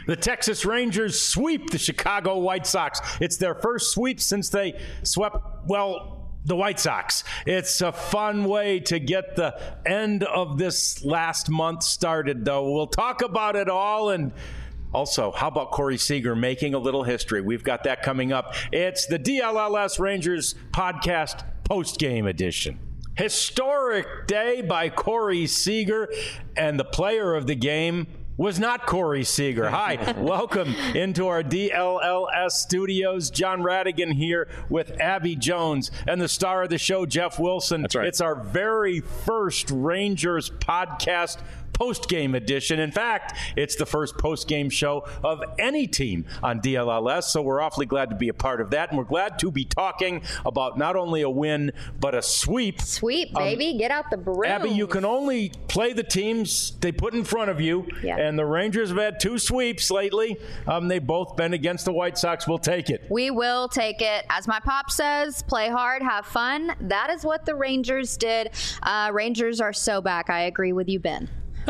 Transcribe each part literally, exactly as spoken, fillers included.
The Texas Rangers sweep the Chicago White Sox. It's their first sweep since they swept, well, the White Sox. It's a fun way to get the end of this last month started, though. We'll talk about it all. And also, how about Corey Seager making a little history? We've got that coming up. It's the D L L S Rangers podcast post-game edition. Historic day by Corey Seager, and the player of the game was not Corey Seager. Hi, welcome into our D L L S studios. John Radigan here with Abby Jones and the star of the show, Jeff Wilson. That's right. It's our very first Rangers podcast post-game edition. In fact, it's the first post-game show of any team on D L L S, so we're awfully glad to be a part of that, and we're glad to be talking about not only a win, but a sweep. Sweep, baby. Um, Get out the broom. Abby, you can only play the teams they put in front of you, yeah. and the Rangers have had two sweeps lately. Um, they've both been against the White Sox. We'll take it. We will take it. As my pop says, play hard, have fun. That is what the Rangers did. Uh, Rangers are so back. I agree with you, Ben.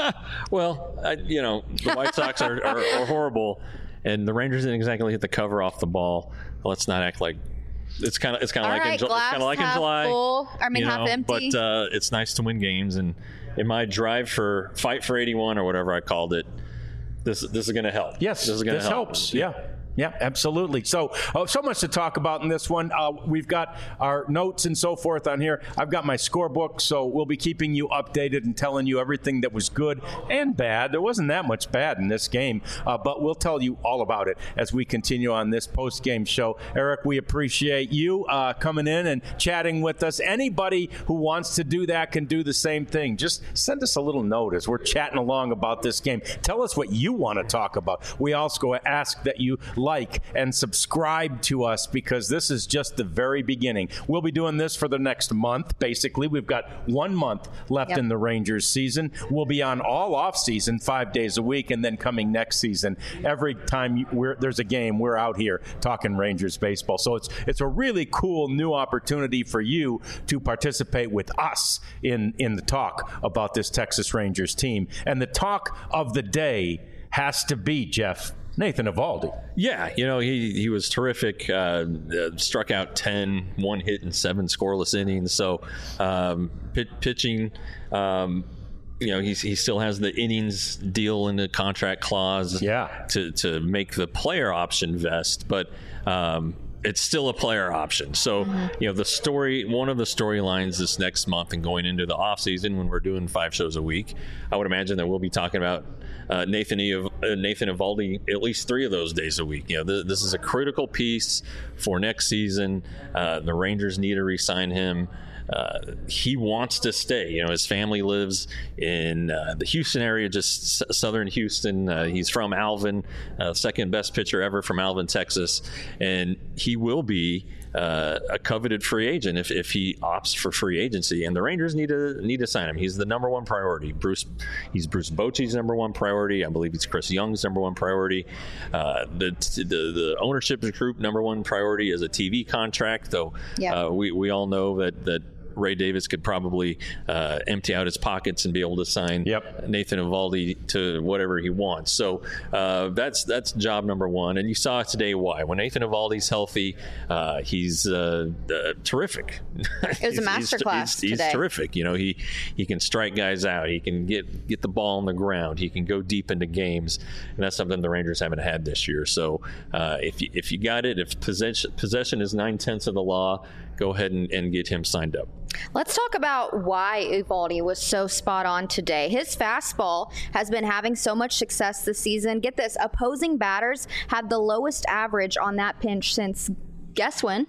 Well, I, you know, the White Sox are, are, are horrible, and the Rangers didn't exactly hit the cover off the ball. Let's not act like it's kind of it's kind of like right, in, it's kind of like in July. Full, I mean, you half know, empty. But uh, it's nice to win games, and in my drive for fight for eighty-one or whatever I called it, this this is going to help. Yes, this is going to help. helps. Yeah. Yeah, absolutely. So, uh, so much to talk about in this one. Uh, we've got our notes and so forth on here. I've got my scorebook, so we'll be keeping you updated and telling you everything that was good and bad. There wasn't that much bad in this game, uh, but we'll tell you all about it as we continue on this post-game show. Eric, we appreciate you uh, coming in and chatting with us. Anybody who wants to do that can do the same thing. Just send us a little note as we're chatting along about this game. Tell us what you want to talk about. We also ask that you like and subscribe to us, because this is just the very beginning. We'll be doing this for the next month, basically. We've got one month left yep. in the Rangers season. We'll be on all off season, five days a week, and then coming next season, every time we're, there's a game, we're out here talking Rangers baseball. So it's it's a really cool new opportunity for you to participate with us in, in the talk about this Texas Rangers team. And the talk of the day has to be, Jeff, Nathan Eovaldi. Yeah, you know, he, he was terrific. Uh, uh, struck out ten, one hit and seven scoreless innings. So um, pit, pitching, um, you know, he's, he still has the innings deal in the contract clause yeah. to, to make the player option vest. But um, it's still a player option. So, you know, the story, one of the storylines this next month and going into the off season when we're doing five shows a week, I would imagine that we'll be talking about uh, Nathan e- uh, Nathan Eovaldi at least three of those days a week. You know, th- this is a critical piece for next season. Uh, the Rangers need to re-sign him. Uh, he wants to stay. You know, his family lives in uh, the Houston area, just s- southern Houston. Uh, he's from Alvin, uh, second best pitcher ever from Alvin, Texas, and he will be uh, a coveted free agent if, if he opts for free agency. And the Rangers need to need to sign him. He's the number one priority. Bruce, he's Bruce Bochy's number one priority. I believe he's Chris Young's number one priority. Uh, the, the the ownership group number one priority is a T V contract. Though yeah. uh, we we all know that that. Ray Davis could probably uh, empty out his pockets and be able to sign yep. Nathan Eovaldi to whatever he wants. So uh, that's that's job number one. And you saw today why. When Nathan Eovaldi's healthy, uh, he's uh, uh, terrific. It was a masterclass he's, he's, today. He's terrific. You know, he he can strike guys out. He can get get the ball on the ground. He can go deep into games, and that's something the Rangers haven't had this year. So uh, if you, if you got it, if possession possession is nine tenths of the law, go ahead and, and get him signed up. Let's talk about why Eovaldi was so spot on today. His fastball has been having so much success this season. Get this, opposing batters have the lowest average on that pinch since, guess when?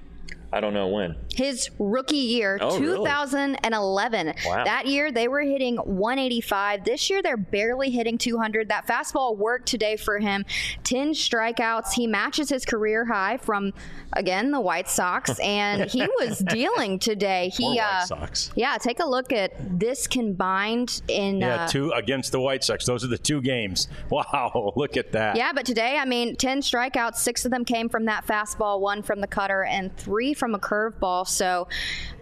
I don't know when. His rookie year, oh, two thousand eleven. Really? Wow. That year, they were hitting one eighty-five. This year, they're barely hitting two hundred. That fastball worked today for him. ten strikeouts. He matches his career high from, again, the White Sox, and he was dealing today. He, More White uh, Sox. Yeah, take a look at this combined in. Yeah, uh, two against the White Sox. Those are the two games. Wow, look at that. Yeah, but today, I mean, ten strikeouts. Six of them came from that fastball, one from the cutter, and three from a curveball. So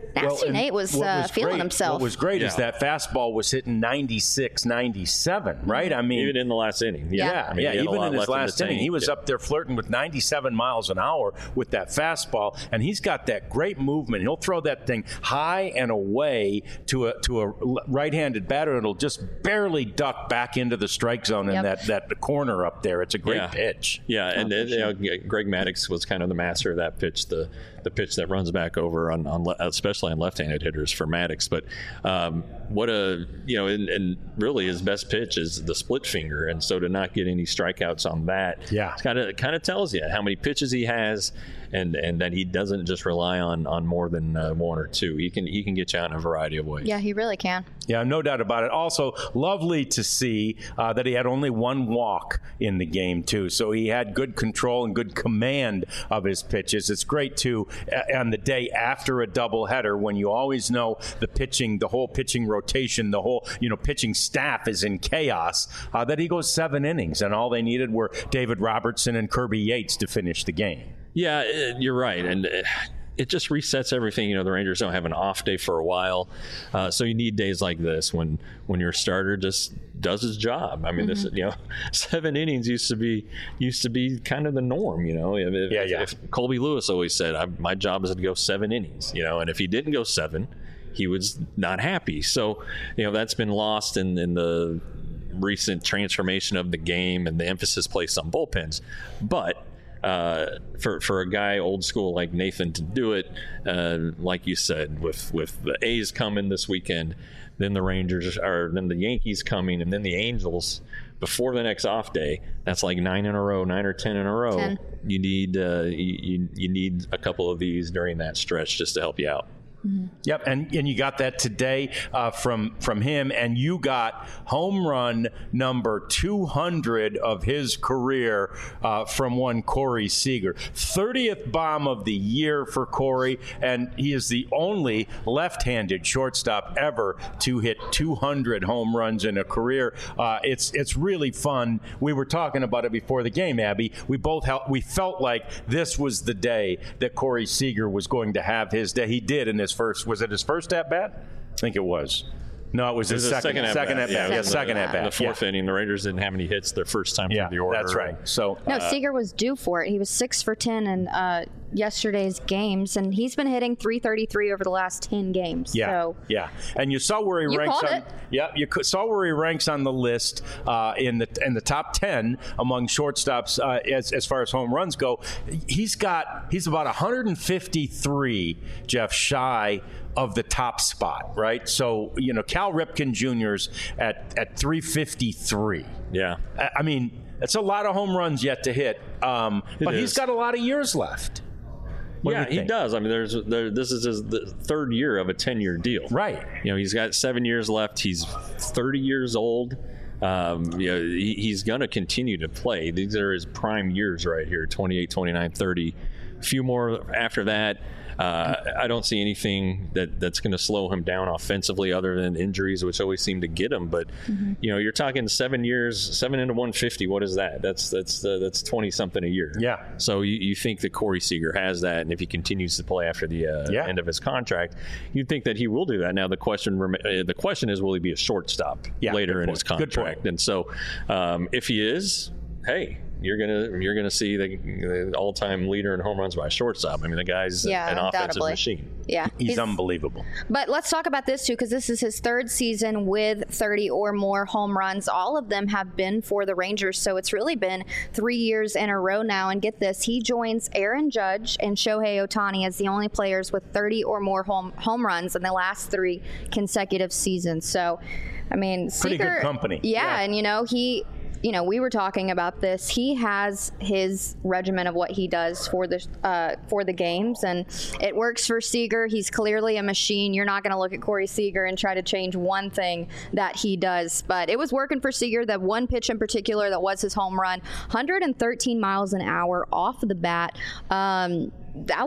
Nasty and Nate was, what uh, was feeling great- himself. What was great is Yeah. that fastball was hitting ninety-six, ninety-seven, right? I mean, Even in the last inning. Yeah, Yeah, I mean, yeah. he had a Even lot in his left the last inning, tank. he was Yeah. up there flirting with ninety-seven miles an hour with that fastball, and he's got that great movement. He'll throw that thing high and away to a to a right-handed batter. It'll just barely duck back into the strike zone in Yep. that that corner up there. It's a great Yeah. pitch. Yeah, and for uh, you know, Greg Maddux was kind of the master of that pitch, the the pitch that runs back over on, on le- especially on left-handed hitters for Maddux. But um, what a you know, and, and really his best pitch is the split finger, and so to not get any strikeouts on that, Yeah. kind of kind of tells you how many pitches he has, and and that he doesn't just rely on on more than uh, one or two. He can he can get you out in a variety of ways. Yeah, he really can. Yeah, no doubt about it. Also, lovely to see uh, that he had only one walk in the game, too. So he had good control and good command of his pitches. It's great, too, uh, on the day after a doubleheader when you always know the pitching, the whole pitching rotation, the whole, you know, pitching staff is in chaos, uh, that he goes seven innings, and all they needed were David Robertson and Kirby Yates to finish the game. Yeah, uh, you're right, and uh, it just resets everything. You know, the Rangers don't have an off day for a while, uh, so you need days like this when when your starter just does his job. I mean, mm-hmm. this you know, seven innings used to be used to be kind of the norm. You know, if, yeah, yeah. if Colby Lewis always said, I, "My job is to go seven innings." You know, and if he didn't go seven, he was not happy. So, you know, that's been lost in, in the recent transformation of the game and the emphasis placed on bullpens, but. Uh, for for a guy old school like Nathan to do it, uh, like you said, with with the A's coming this weekend, then the Rangers are then the Yankees coming, and then the Angels before the next off day. That's like nine in a row, nine or ten in a row. ten. You need uh, you you need a couple of these during that stretch just to help you out. Mm-hmm. Yep, and, and you got that today uh, from from him, and you got home run number two hundred of his career uh, from one Corey Seager. thirtieth bomb of the year for Corey, and he is the only left-handed shortstop ever to hit two hundred home runs in a career. Uh, it's it's really fun. We were talking about it before the game, Abby. We both helped, we felt like this was the day that Corey Seager was going to have his day. He did in his first, was it his first at bat? I think it was. No, it was It his was second, second at second bat. at bat. Yeah, Yeah, in the- second at bat. In the fourth yeah. inning, the Rangers didn't have any hits their first time Yeah, through the order. that's right. So No, uh, Seager was due for it. He was six for ten in uh, yesterday's games, and he's been hitting three thirty-three over the last ten games. Yeah, So yeah, and you saw where he You ranks called on. it. Yeah, you co- saw where he ranks on the list uh, in the in the top ten among shortstops uh, as as far as home runs go. He's got he's about one hundred fifty-three, Jeff, shy of the top spot, right? So you know, Cal Ripken Junior's at at three fifty-three. Yeah. I, I mean, that's a lot of home runs yet to hit, um, but is. he's got a lot of years left. What do yeah, you he think? does. I mean, there's there, this is his the third year of a ten-year deal. Right. You know, he's got seven years left. He's thirty years old. Um, you know, he, he's going to continue to play. These are his prime years right here, twenty-eight, twenty-nine, thirty. A few more after that. Uh, I don't see anything that, that's going to slow him down offensively other than injuries, which always seem to get him. But, mm-hmm. you know, you're talking seven years, seven into one fifty. What is that? That's that's uh, that's twenty-something a year. Yeah. So you, you think that Corey Seager has that, and if he continues to play after the uh, yeah. end of his contract, you'd think that he will do that. Now the question rem- uh, the question is, will he be a shortstop yeah, later in point. his contract? And so um, if he is, hey, you're gonna you're gonna see the, the all-time leader in home runs by a shortstop. I mean, the guy's yeah, an offensive undoubtedly. machine. Yeah, he's, he's unbelievable. But let's talk about this too, because this is his third season with thirty or more home runs. All of them have been for the Rangers, so it's really been three years in a row now. And get this, he joins Aaron Judge and Shohei Ohtani as the only players with thirty or more home home runs in the last three consecutive seasons. So, I mean, pretty Seager, good company. Yeah, yeah, and you know he. You know, we were talking about this. He has his regimen of what he does for the uh, for the games, and it works for Seager. He's clearly a machine. You're not going to look at Corey Seager and try to change one thing that he does. But it was working for Seager. That one pitch in particular that was his home run, one hundred thirteen miles an hour off of the bat. Um, that was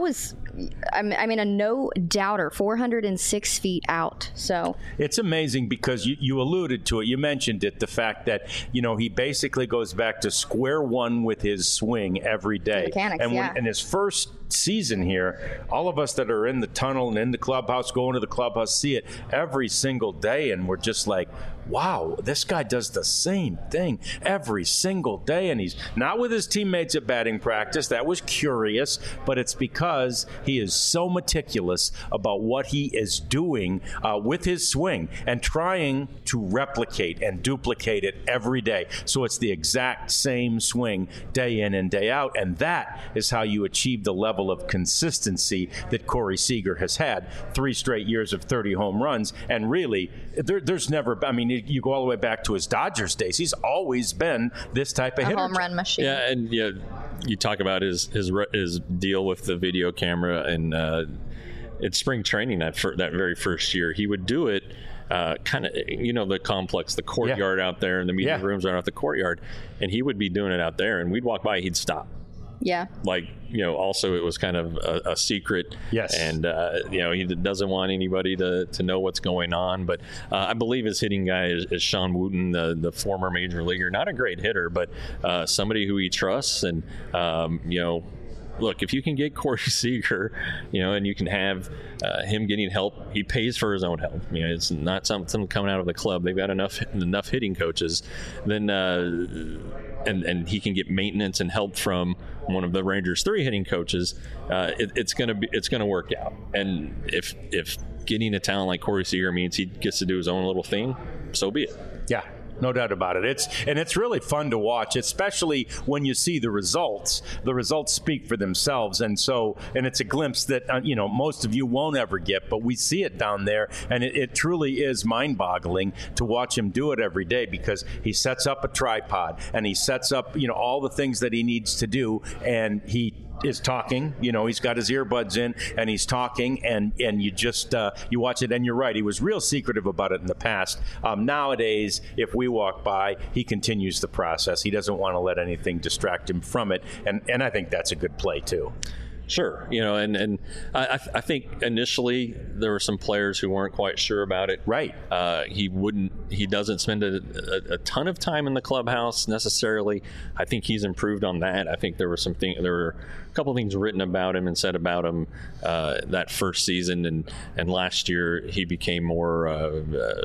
I mean, a no doubter, four hundred six feet out. So it's amazing because you, you alluded to it. You mentioned it, the fact that, you know, he basically goes back to square one with his swing every day. Mechanics, and when, yeah. in his first season here, all of us that are in the tunnel and in the clubhouse, going to the clubhouse, see it every single day, and we're just like, wow, this guy does the same thing every single day, and he's not with his teammates at batting practice. That was curious, but it's because he is so meticulous about what he is doing uh, with his swing and trying to replicate and duplicate it every day. So it's the exact same swing day in and day out, and that is how you achieve the level of consistency that Corey Seager has had. Three straight years of thirty home runs, and really, there, there's never, I mean, you go all the way back to his Dodgers days. He's always been this type of a hitter. home run machine. Yeah, and yeah, you talk about his his his deal with the video camera, and uh, it's spring training that for that very first year. He would do it. Uh, kind of, you know, the complex, the courtyard yeah. out there, and the meeting yeah. rooms are out the courtyard, and he would be doing it out there, and we'd walk by, he'd stop. Yeah. Like, you know, also it was kind of a, a secret. Yes. And, uh, you know, he doesn't want anybody to, to know what's going on. But uh, I believe his hitting guy is, is Sean Wooten, the, the former major leaguer. Not a great hitter, but uh, somebody who he trusts. And, um, you know, look, if you can get Corey Seager, you know, and you can have uh, him getting help, he pays for his own help. You know, it's not something coming out of the club. They've got enough enough hitting coaches. Then, uh, and and he can get maintenance and help from one of the Rangers' three hitting coaches. Uh, it, it's gonna be it's gonna work out. And if if getting a talent like Corey Seager means he gets to do his own little thing, so be it. Yeah. No doubt about it. It's and it's really fun to watch, especially when you see the results. The results speak for themselves, and so and it's a glimpse that uh, you know most of you won't ever get, but we see it down there, and it, it truly is mind-boggling to watch him do it every day because he sets up a tripod and he sets up you know all the things that he needs to do, and he is talking, you know, he's got his earbuds in and he's talking, and and you just uh, you watch it, and you're right, he was real secretive about it in the past. Um, nowadays, if we walk by, he continues the process. He doesn't want to let anything distract him from it, and and I think that's a good play too. Sure, you know, and and I, I think initially there were some players who weren't quite sure about it. Right. Uh, he wouldn't. He doesn't spend a, a, a ton of time in the clubhouse necessarily. I think he's improved on that. I think there were some things. There were a couple things written about him and said about him uh, that first season, and and last year he became more uh, uh,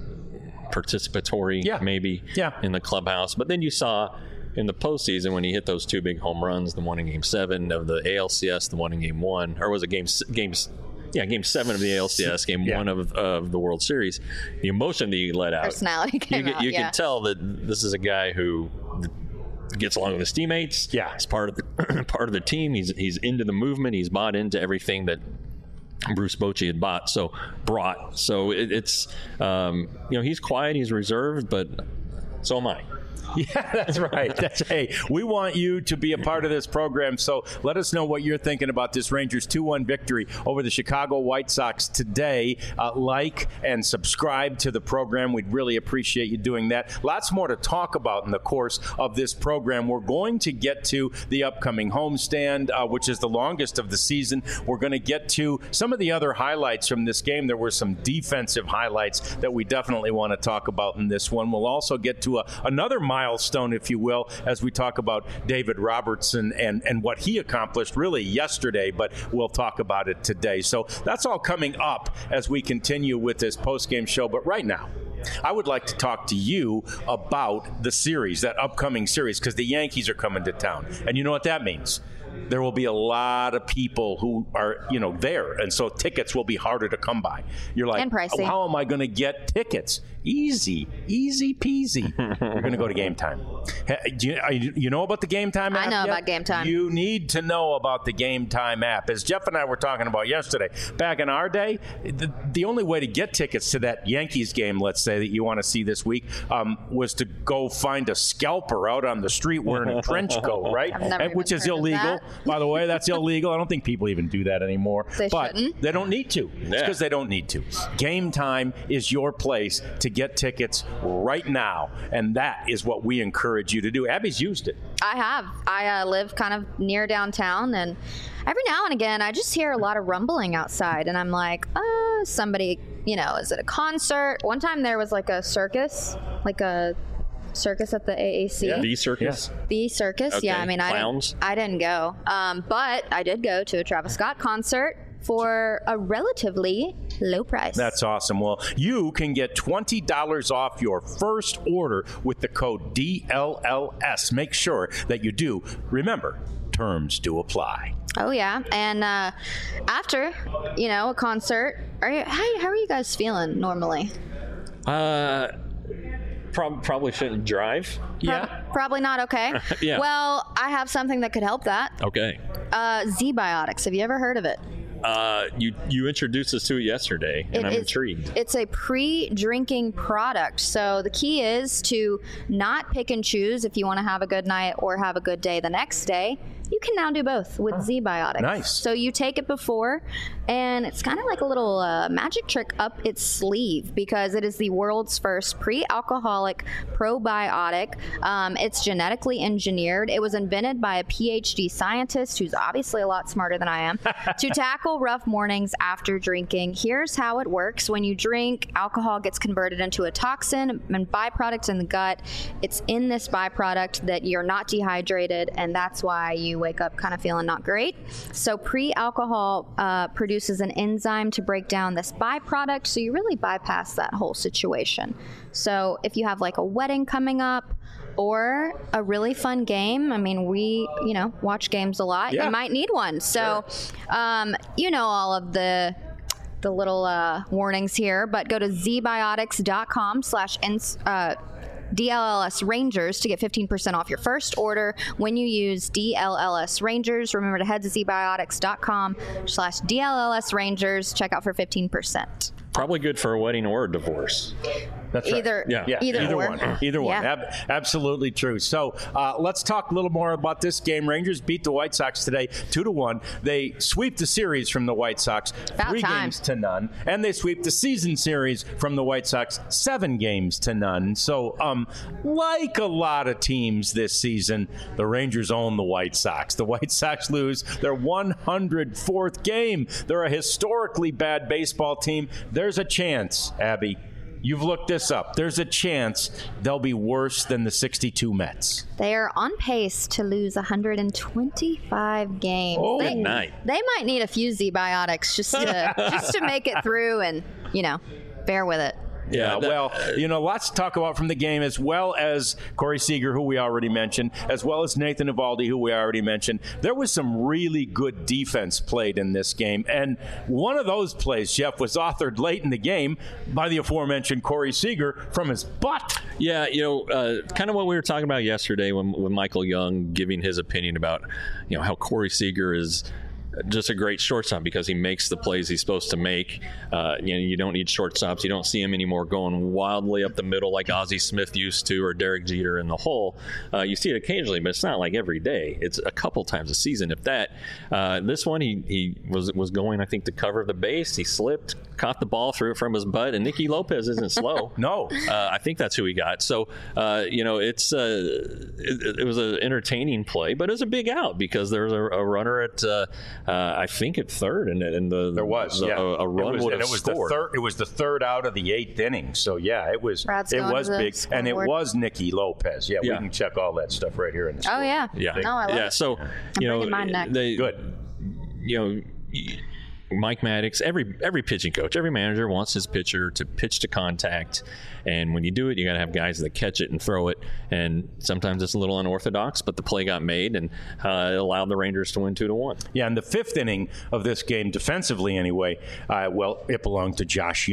participatory, yeah. maybe, yeah. in the clubhouse. But then you saw in the postseason when he hit those two big home runs, the one in Game Seven of the A L C S, the one in Game One, or was it Game Games? Yeah, Game Seven of the A L C S, Game yeah. One of of the World Series. The emotion that he let out, personality came you, out. You yeah. can tell that this is a guy who gets along with his teammates. Yeah, he's part of the part of the team. He's he's into the movement. He's bought into everything that Bruce Bochy had bought. So brought. So it, it's um, you know he's quiet. He's reserved, but so am I. Yeah, that's right. That's hey, we want you to be a part of this program, so let us know what you're thinking about this Rangers two one victory over the Chicago White Sox today. Uh, like and subscribe to the program. We'd really appreciate you doing that. Lots more to talk about in the course of this program. We're going to get to the upcoming homestand, uh, which is the longest of the season. We're going to get to some of the other highlights from this game. There were some defensive highlights that we definitely want to talk about in this one. We'll also get to a, another milestone, if you will, as we talk about David Robertson and, and what he accomplished really yesterday, but we'll talk about it today. So that's all coming up as we continue with this post-game show. But right now, I would like to talk to you about the series, that upcoming series, because the Yankees are coming to town. And you know what that means? There will be a lot of people who are, you know, there, and so tickets will be harder to come by. You're like, and pricey. Oh, how am I going to get tickets? Easy, easy peasy. You're going to go to Game Time. Do you, you know about the Game Time app? I know yet? about Game Time. You need to know about the Game Time app. As Jeff and I were talking about yesterday, back in our day, the, the only way to get tickets to that Yankees game, let's say, that you want to see this week, um, was to go find a scalper out on the street wearing a trench coat, right? I've never and, which even is heard of illegal. that. By the way, that's illegal. I don't think people even do that anymore. They but shouldn't. they don't need to. It's Yeah. because they don't need to. Game Time is your place to get tickets right now, and that is what we encourage you to do. Abby's used it. I have. I uh, live kind of near downtown, and every now and again, I just hear a lot of rumbling outside, and I'm like, uh, somebody, you know, is it a concert? One time there was like a circus, like a circus at the A A C. Yeah. The circus. The circus, Okay. yeah. I mean, I Clowns? didn't, I didn't go, um, but I did go to a Travis Scott concert for a relatively low price. That's awesome. Well, you can get twenty dollars off your first order with the code D L L S. Make sure that you do. Remember, terms do apply. Oh yeah, and uh, after you know a concert, are you, how, how are you guys feeling normally? Uh, prob- probably shouldn't drive. Prob- probably not okay. Yeah. Well, I have something that could help that. Okay. Uh, Z-Biotics. Have you ever heard of it? Uh, you you introduced us to it yesterday, and It I'm is- intrigued. It's a pre-drinking product. So the key is to not pick and choose if you want to have a good night or have a good day the next day. You can now do both with Z-Biotics. Nice. So you take it before, and it's kind of like a little uh, magic trick up its sleeve because it is the world's first pre-alcoholic probiotic. Um, it's genetically engineered. It was invented by a P H D scientist who's obviously a lot smarter than I am to tackle rough mornings after drinking. Here's how it works. When you drink, alcohol gets converted into a toxin and byproduct in the gut. It's in this byproduct that you're not dehydrated, and that's why you wake up kind of feeling not great. So pre-alcohol uh, produces an enzyme to break down this byproduct, so you really bypass that whole situation. So if you have like a wedding coming up or a really fun game, I mean, we, you know, watch games a lot. Yeah. You might need one. So, um, you know, all of the the little uh, warnings here, but go to zbiotics.com slash ins- uh, D L L S Rangers to get fifteen percent off your first order when you use D L L S Rangers. Remember to head to zbiotics.com slash D L L S Rangers. Check out for fifteen percent. Probably good for a wedding or a divorce. That's right. Either, Yeah. Yeah, either, either or. one. Either one. Yeah. Ab- absolutely true. So uh, let's talk a little more about this game. Rangers beat the White Sox today, two to one. They sweep the series from the White Sox, About three time. games to none, and they sweep the season series from the White Sox, seven games to none. So, um, like a lot of teams this season, the Rangers own the White Sox. The White Sox lose their one hundred fourth game. They're a historically bad baseball team. There's a chance, Abby. You've looked this up. There's a chance they'll be worse than the sixty-two Mets. They are on pace to lose one hundred twenty-five games. Oh, they, good night. They might need a few Z-Biotics just to just to make it through and, you know, bear with it. Yeah, that- well, you know, lots to talk about from the game, as well as Corey Seager, who we already mentioned, as well as Nathan Eovaldi, who we already mentioned. There was some really good defense played in this game, and one of those plays, Jeff, was authored late in the game by the aforementioned Corey Seager from his butt. Yeah, you know, uh, kind of what we were talking about yesterday when, when Michael Young giving his opinion about, you know, how Corey Seager is just a great shortstop because he makes the plays he's supposed to make. Uh, you know, you don't need shortstops. You don't see him anymore going wildly up the middle like Ozzie Smith used to or Derek Jeter in the hole. Uh, you see it occasionally, but it's not like every day. It's a couple times a season, if that. Uh, this one, he, he was was going, I think, to cover the base. He slipped, caught the ball, threw it from his butt, and Nicky Lopez isn't slow. No. Uh, I think that's who he got. So, uh, you know, it's uh, it, it was an entertaining play, but it was a big out because there was a, a runner at, uh, uh, I think, at third, and, and the There was, the, yeah. a, a run it was, would and have it was scored. The third, it was the third out of the eighth inning. So, yeah, it was Brad's it going was to the big. And it scoreboard. was Nicky Lopez. Yeah, Yeah. we can check all that stuff right here in the Oh, score. yeah. Yeah, No, I love yeah. it. So, you know, bringing mine next. they Good. you know. y- Mike Maddox, every every pitching coach, every manager wants his pitcher to pitch to contact, and when you do it, you got to have guys that catch it and throw it. And sometimes it's a little unorthodox, but the play got made, and uh, it allowed the Rangers to win two to one. Yeah, in the fifth inning of this game, defensively anyway, uh, well, it belonged to Josh Young.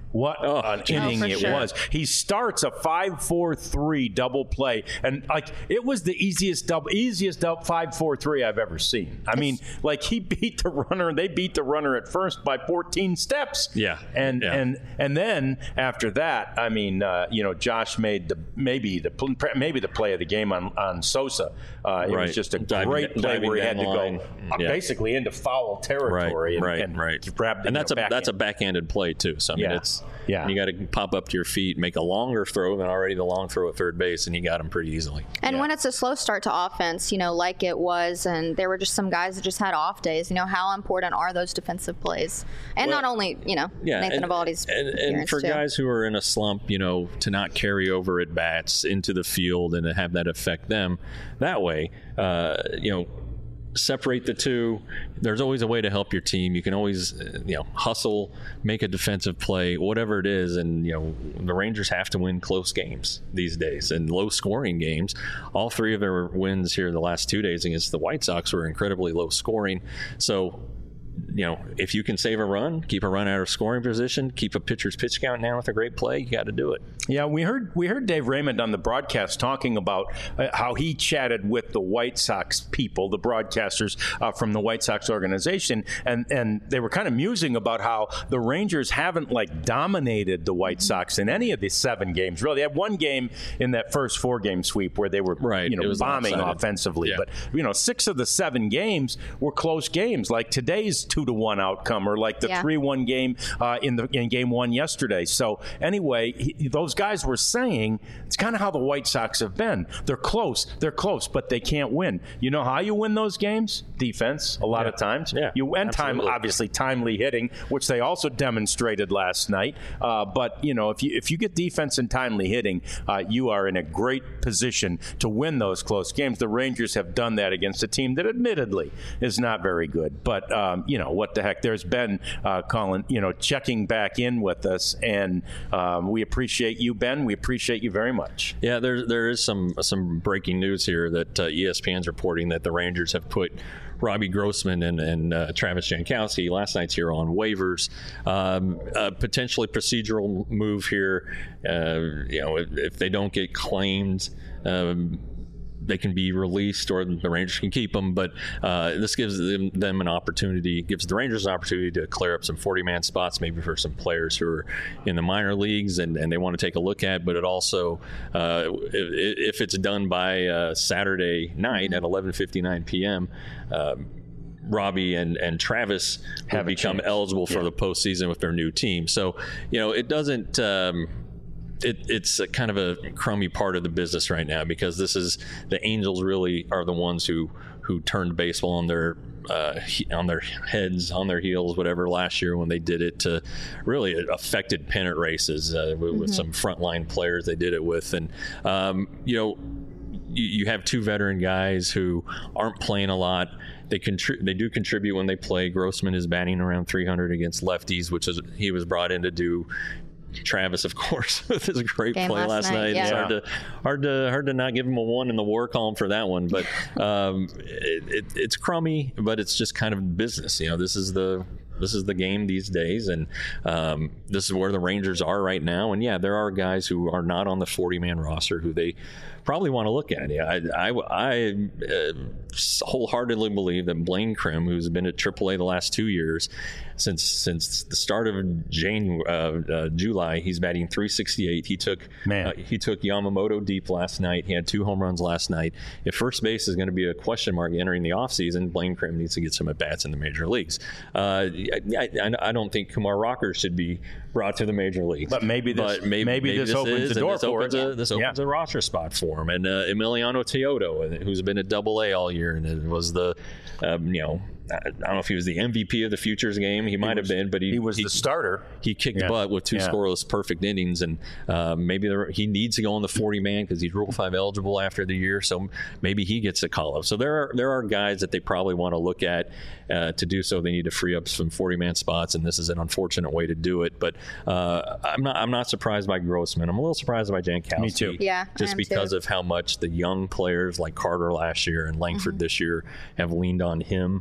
What Oh, an geez. inning Oh, for it sure. was. He starts a five four three double play, and like it was the easiest double, easiest double five four three I've ever seen. I mean, like he beat the runner, they beat the runner at first by fourteen steps. Yeah. and Yeah. and and then after that, I mean, uh, you know, Josh made the maybe the pl- maybe the play of the game on on Sosa. Uh, it Right. was just a Diving- great play diving where he had to down go line. uh, Yeah. basically into foul Right, territory, and, right, and right. grabbed and you that's know, a that's a backhand. backhanded play too. So I mean, Yeah. it's Yeah. you got to pop up to your feet, make a longer throw than already the long throw at third base, and he got him pretty easily. And Yeah. when it's a slow start to offense, you know, like it was, and there were just some guys that just had off days, you know, how important are those defensive plays? And Well, not only, you know, Yeah, Nathan and, Eovaldi's and, and appearance for too. guys who are in a slump, you know, to not carry over at bats into the field and to have that affect them that way, uh, you know, separate the two. There's always a way to help your team. You can always, uh, you know, hustle, make a defensive play, whatever it is. And, you know, the Rangers have to win close games these days and low scoring games. All three of their wins here the last two days against the White Sox were incredibly low scoring. So, you know, if you can save a run, keep a run out of scoring position, keep a pitcher's pitch count down with a great play, you got to do it. Yeah, we heard we heard Dave Raymond on the broadcast talking about uh, how he chatted with the White Sox people, the broadcasters uh, from the White Sox organization, and and they were kind of musing about how the Rangers haven't like dominated the White Sox in any of the seven games. Really, they had one game in that first four game sweep where they were Right, you know it was bombing lopsided. offensively, Yeah. but you know six of the seven games were close games, like today's two to one outcome, or like the Yeah. three one game uh, in the in game one yesterday. So anyway, he, those guys were saying it's kind of how the White Sox have been. They're close, they're close, but they can't win. You know how you win those games? Defense, a lot Yeah. of times. Yeah, you and time, absolutely. obviously timely hitting, which they also demonstrated last night. Uh, but you know, if you if you get defense and timely hitting, uh, you are in a great position to win those close games. The Rangers have done that against a team that, admittedly, is not very good. But um, you know what the heck? There's been uh, Colin, you know, checking back in with us, and um, we appreciate you, Ben. We appreciate you very much. Yeah, there there is some some breaking news here that uh, E S P N's reporting that the Rangers have put Robbie Grossman and, and uh, Travis Jankowski, last night's hero, on waivers. Um, a potentially procedural move here. Uh, you know, if, if they don't get claimed, um, they can be released, or the Rangers can keep them. But uh, this gives them, them an opportunity, gives the Rangers an opportunity to clear up some forty-man spots, maybe for some players who are in the minor leagues and, and they want to take a look at. But it also, uh, if, if it's done by uh, Saturday night at eleven fifty-nine p.m., um, Robbie and, and Travis will Have a become chance. eligible for Yeah. the postseason with their new team. So, you know, it doesn't. Um, It, it's a kind of a crummy part of the business right now, because this is the Angels really are the ones who who turned baseball on their uh, he- on their heads, on their heels, whatever, last year when they did it to really it affected pennant races uh, with, with some frontline players they did it with. And um, you know, you, you have two veteran guys who aren't playing a lot. They contri- they do contribute when they play. Grossman is batting around three hundred against lefties, which is he was brought in to do. Travis, of course, with his great Game play last last night, night. yeah. It's hard to hard to hard to not give him a one in the war column for that one. But um, it, it, it's crummy, but it's just kind of business. You know, this is the this is the game these days, and um, this is where the Rangers are right now. And yeah, there are guys who are not on the forty-man roster who they probably want to look at. Yeah, I I, I uh, wholeheartedly believe that Blaine Krim, who's been at triple A the last two years, since since the start of January, uh, uh, July, he's batting three sixty-eight. He took Man. uh, he took Yamamoto deep last night. He had two home runs last night. If first base is going to be a question mark entering the offseason, Blaine Krim needs to get some at bats in the major leagues. Uh, I, I, I don't think Kumar Rocker should be brought to the major leagues. But maybe this- But maybe, maybe this opens is, the and door this for opens it. A, this opens Yeah. a roster spot for him. And uh, Emiliano Teodo, who's been at Double A all year, and it was the, um, you know, I don't know if he was the M V P of the Futures game. He might have been, but he He was the starter. He kicked Yeah. butt with two Yeah. scoreless perfect innings, and uh, maybe there, he needs to go on the forty-man because he's Rule Five eligible after the year. So maybe he gets a call up. So there are there are guys that they probably want to look at. Uh, to do so, they need to free up some forty-man spots, and this is an unfortunate way to do it. But uh, I'm not I'm not surprised by Grossman. I'm a little surprised by Jankowski. Me too. Yeah, I just am because too. of how much the young players like Carter last year and Langford Mm-hmm. this year have leaned on him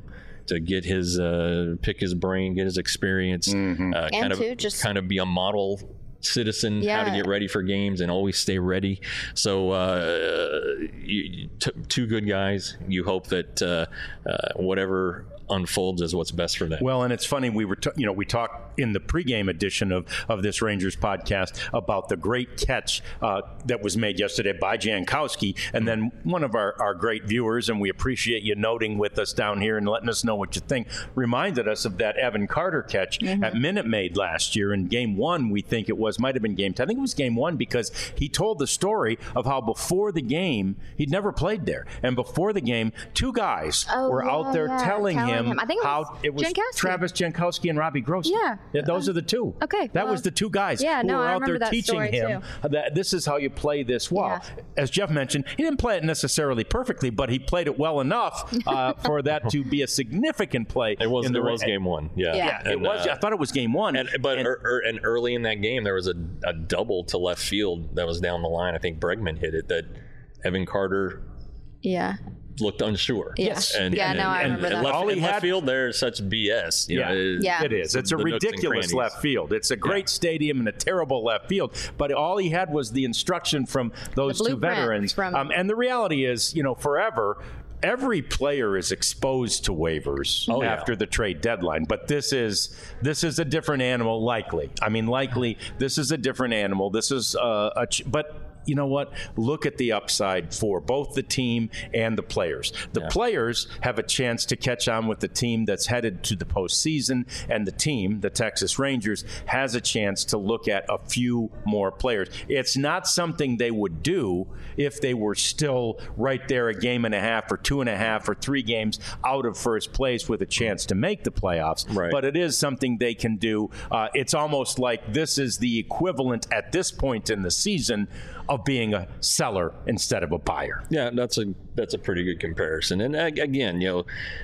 to get his uh, pick his brain, get his experience, Mm-hmm. uh, kind of to just- kind of be a model citizen, Yeah. how to get ready for games and always stay ready. So uh, you, t- two good guys. You hope that uh, uh, whatever unfolds is what's best for them. Well, and it's funny, we were, t- you know, we talked in the pregame edition of, of this Rangers podcast about the great catch uh, that was made yesterday by Jankowski. And then one of our, our great viewers, and we appreciate you noting with us down here and letting us know what you think, reminded us of that Evan Carter catch Mm-hmm. at Minute Maid last year in game one. We think it was, might have been game two. I think it was game one because he told the story of how before the game, he'd never played there. And before the game, two guys Oh, were yeah, out there yeah, telling, telling him, him. I think it how was it was Jankowski. Travis Jankowski and Robbie Grossman. Yeah. those are the two. Okay, that well, was the two guys yeah, who no, were I out there remember that teaching story, him too. that this is how you play this well. Yeah. As Jeff mentioned, he didn't play it necessarily perfectly, but he played it well enough uh, for that to be a significant play. it was in the it was ra- game one. Yeah, Yeah. Yeah, it And, was. uh, I thought it was game one. And, but And- er, er, and early in that game, there was a, a double to left field that was down the line. I think Bregman hit it. That Evan Carter Yeah. looked unsure. Yes. And, Yeah, and, no, I and, remember and that. Left, All he in left had- field, there's such B S. You Yeah. know, it- Yeah. It is. It's a the nooks and ridiculous crannies. left field. It's a great Yeah. stadium and a terrible left field. But all he had was the instruction from those The two blueprint veterans. from- Um, and the reality is, you know, forever, every player is exposed to waivers Oh, yeah. after the trade deadline. But this is this is a different animal, likely. I mean, likely this is a different animal. This is uh, a ch- but. You know what? Look at the upside for both the team and the players. The Yeah. players have a chance to catch on with the team that's headed to the postseason, and the team, the Texas Rangers, has a chance to look at a few more players. It's not something they would do if they were still right there a game and a half or two and a half or three games out of first place with a chance to make the playoffs. Right. But it is something they can do. Uh, it's almost like this is the equivalent at this point in the season of being a seller instead of a buyer. Yeah, that's a that's a pretty good comparison. And ag- again, you know,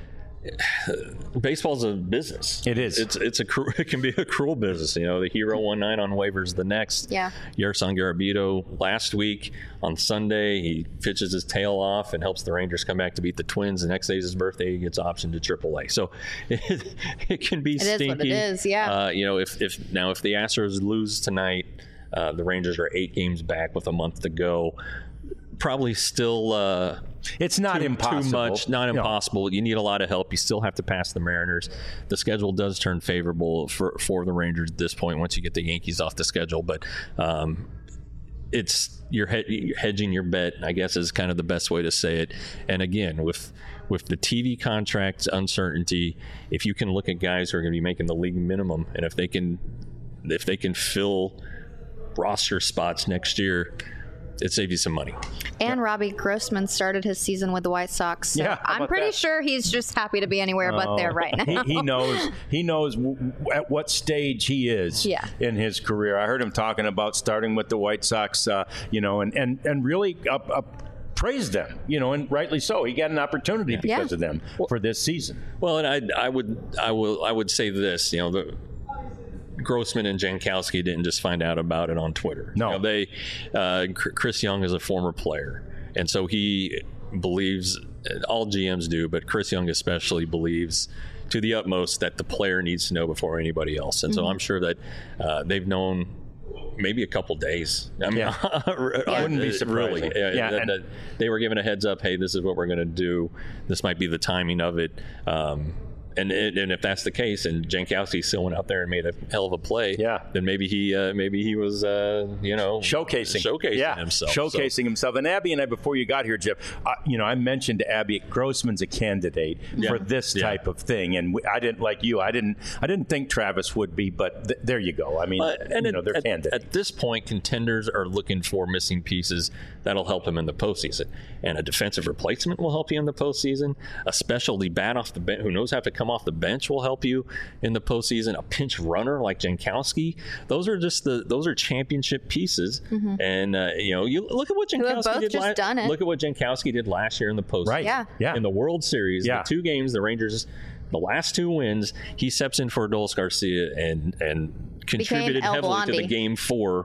baseball's a business. It is. It's it's a cru- it can be a cruel business. You know, the hero one night on waivers the next. Yeah. Yerson Garabito last week on Sunday, he pitches his tail off and helps the Rangers come back to beat the Twins. The next day is his birthday. He gets optioned to triple A. So it, it can be It is stinky. what it is, yeah. Uh, you know, if if now if the Astros lose tonight, uh, the Rangers are eight games back with a month to go. Probably still. Uh, It's not too, impossible. Too much, not No. impossible. You need a lot of help. You still have to pass the Mariners. The schedule does turn favorable for, for the Rangers at this point once you get the Yankees off the schedule. But um, it's you're, he- you're hedging your bet, I guess, is kind of the best way to say it. And again, with with the T V contracts uncertainty, if you can look at guys who are going to be making the league minimum, and if they can if they can fill roster spots next year, it saves you some money. And Robbie Grossman started his season with the White Sox. So Yeah, how I'm about pretty that? sure he's just happy to be anywhere but there right now. he, he knows he knows w- w- at what stage he is Yeah. in his career. I heard him talking about starting with the White Sox, uh, you know, and and and really up. up praised them, you know, and rightly so. He got an opportunity because Yeah. of them for this season. Well, and I, I would, I will, I would say this. You know, the Grossman and Jankowski didn't just find out about it on Twitter. No. You know, they, uh, Chris Young is a former player, and so he believes. All G Ms do, but Chris Young especially believes to the utmost that the player needs to know before anybody else. And so I'm sure that uh, they've known. Maybe a couple days. I mean, Yeah. I Wouldn't be surprising. Really, yeah, Yeah, that- and- that they were given a heads up. Hey, this is what we're going to do. This might be the timing of it. Um, and and and if that's the case, and Jankowski still went out there and made a hell of a play, Yeah. then maybe he uh, maybe he was uh, you know Showcasing, showcasing yeah, himself, showcasing So- himself. And Abby and I, before you got here, Jeff, uh, you know, I mentioned to Abby Grossman's a candidate Yeah. for this Yeah. type of thing, and we, I didn't like you. I didn't. I didn't think Travis would be, but th- there you go. I mean, Uh, and you at, know, they're at, candidates. at this point, contenders are looking for missing pieces that'll help him in the postseason. And a defensive replacement will help you in the postseason. A specialty bat off the bench who knows how to come off the bench will help you in the postseason. A pinch runner like Jankowski. Those are just the those are championship pieces. And uh, you know, you look at what have Jankowski both did. just la- done it. Look at what Jankowski did last year in the postseason. Right. Yeah. Yeah. In the World Series, Yeah. the two games the Rangers. The last two wins, he steps in for Adolis Garcia and and contributed El heavily to the Blondie. game four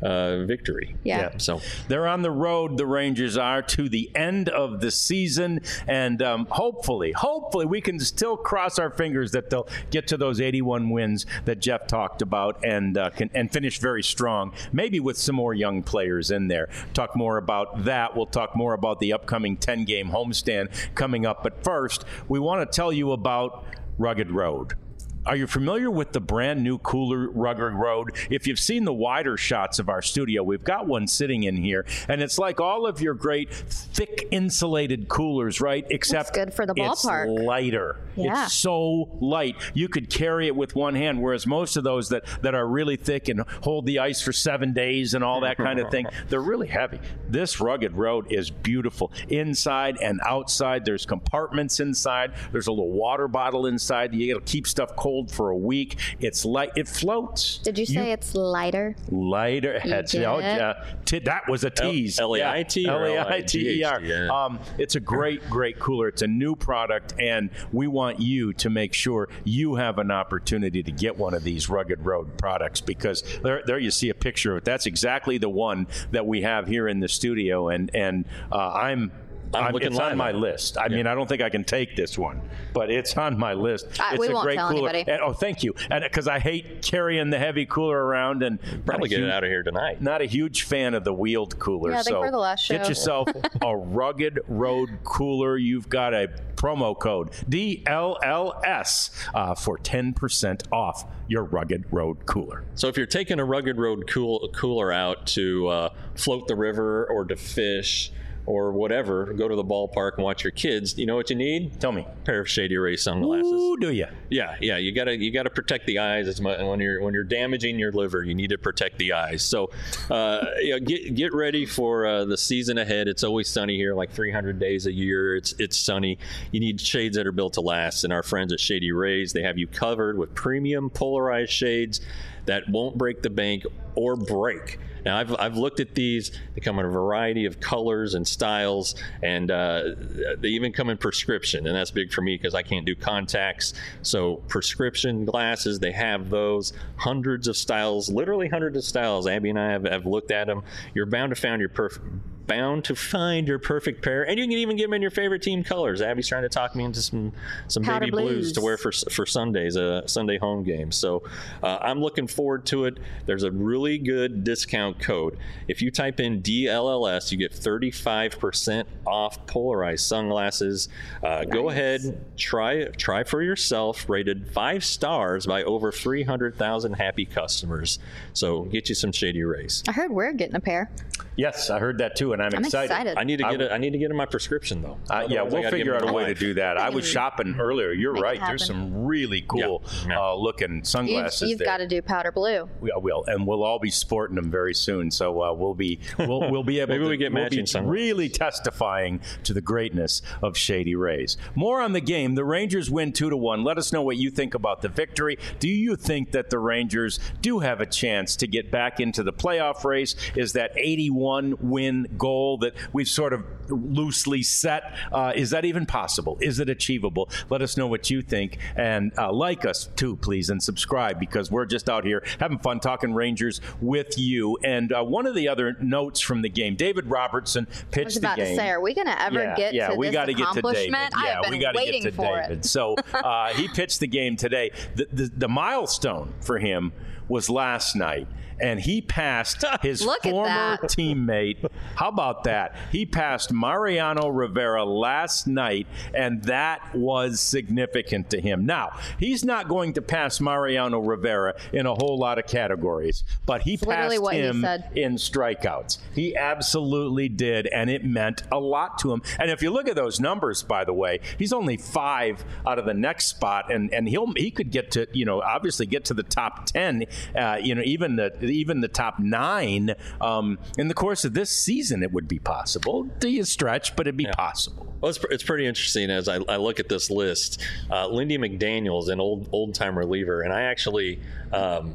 uh, victory. Yeah. Yeah. So they're on the road, the Rangers are, to the end of the season. And um, hopefully, hopefully we can still cross our fingers that they'll get to those eighty-one wins that Jeff talked about and uh, can, and finish very strong, maybe with some more young players in there. Talk more about that. We'll talk more about the upcoming ten-game homestand coming up. But first, we want to tell you about Rugged Road. Are you familiar with the brand new cooler Rugged Road? If you've seen the wider shots of our studio, we've got one sitting in here, and it's like all of your great thick insulated coolers, right? Except it's good for the ballpark. It's lighter. Yeah. It's so light. You could carry it with one hand, whereas most of those that, that are really thick and hold the ice for seven days and all that kind of thing, they're really heavy. This Rugged Road is beautiful. Inside and outside, there's compartments inside. There's a little water bottle inside. You got to keep stuff cold for a week. It's light. It floats. Did you say you, it's lighter? Lighter. That's, oh, yeah. T- that was a tease. L A I T L A I T E R. Yeah. Um, it's a great, great cooler. It's a new product, and we want you to make sure you have an opportunity to get one of these Rugged Road products, because there, there you see a picture of it. That's exactly the one that we have here in the studio, and and uh, I'm. I'm I'm, looking it's on live my on it. list. I Yeah. mean, I don't think I can take this one, but it's on my list. Uh, it's we a won't great tell cooler. anybody. And, oh, thank you. And because I hate carrying the heavy cooler around, and Probably get huge, it out of here tonight. Not a huge fan of the wheeled cooler. Yeah, I think so we're the last show. get yourself a Rugged Road cooler. You've got a promo code D L L S uh, for ten percent off your Rugged Road cooler. So if you're taking a Rugged Road cool, cooler out to uh, float the river or to fish or whatever, go to the ballpark and watch your kids, you know what you need? Tell me. A pair of Shady Rays sunglasses. Ooh, do you? Yeah, yeah. You gotta you gotta protect the eyes as much when you're when you're damaging your liver. You need to protect the eyes. So, uh, you know, get get ready for uh, the season ahead. It's always sunny here, like three hundred days a year. It's it's sunny. You need shades that are built to last. And our friends at Shady Rays, they have you covered with premium polarized shades that won't break the bank or break. Now, I've, I've looked at these. They come in a variety of colors and styles, and uh, they even come in prescription, and that's big for me because I can't do contacts. So prescription glasses, they have those. Hundreds of styles, literally hundreds of styles. Abby and I have, have looked at them. You're bound to find your perfect bound to find your perfect pair, and you can even get them in your favorite team colors. Abby's trying to talk me into some some Powder baby blues. blues to wear for for Sundays, a Sunday home game. So uh, I'm looking forward to it. There's a really good discount code. If you type in D L L S, you get thirty-five percent off polarized sunglasses. Uh, nice. Go ahead, try try for yourself. Rated five stars by over three hundred thousand happy customers. So get you some Shady Rays. I heard we're getting a pair. Yes, I heard that too, and I'm, I'm excited. excited. I need to get I, it. I need to get in my prescription though. Uh, yeah, Otherwise, I we'll gotta figure get out a them way to live. do that. I was shopping earlier. You're Make it right. There's happen. some really cool Yeah. Yeah. Uh, looking sunglasses. You've, you've there. got to do powder blue. We will, and we'll all be sporting them very soon. So uh, we'll be we'll, we'll be able Maybe to we get we'll matching be sunglasses. really testifying to the greatness of Shady Rays. More on the game. The Rangers win two to one. Let us know what you think about the victory. Do you think that the Rangers do have a chance to get back into the playoff race? Is that eighty-one win goal that we've sort of loosely set, uh, is that even possible? Is it achievable? Let us know what you think, and uh, like us too, please, and subscribe, because we're just out here having fun talking Rangers with you. And uh, one of the other notes from the game, David Robertson pitched I was about the game. to say, are we going to ever yeah, get yeah, to we this gotta get to David. accomplishment? I Yeah, have been we gotta waiting get to for David. it. So uh, he pitched the game today. The, the, the milestone for him was last night, and he passed his Look at former that. teammate. How about that? He passed Mariano Rivera last night, and that was significant to him. Now, he's not going to pass Mariano Rivera in a whole lot of categories, but he It's literally passed what he him said. in strikeouts. He absolutely did, and it meant a lot to him. And if you look at those numbers, by the way, he's only five out of the next spot, and, and he'll he could get to, you know, obviously get to the top ten, uh, you know, even the even the top nine um, in the course of this season. It would be possible. Do you stretch, but it'd be Yeah. possible. Well, it's, it's pretty interesting as I, I look at this list. Uh, Lindy McDaniel's an old old time reliever, and I actually um,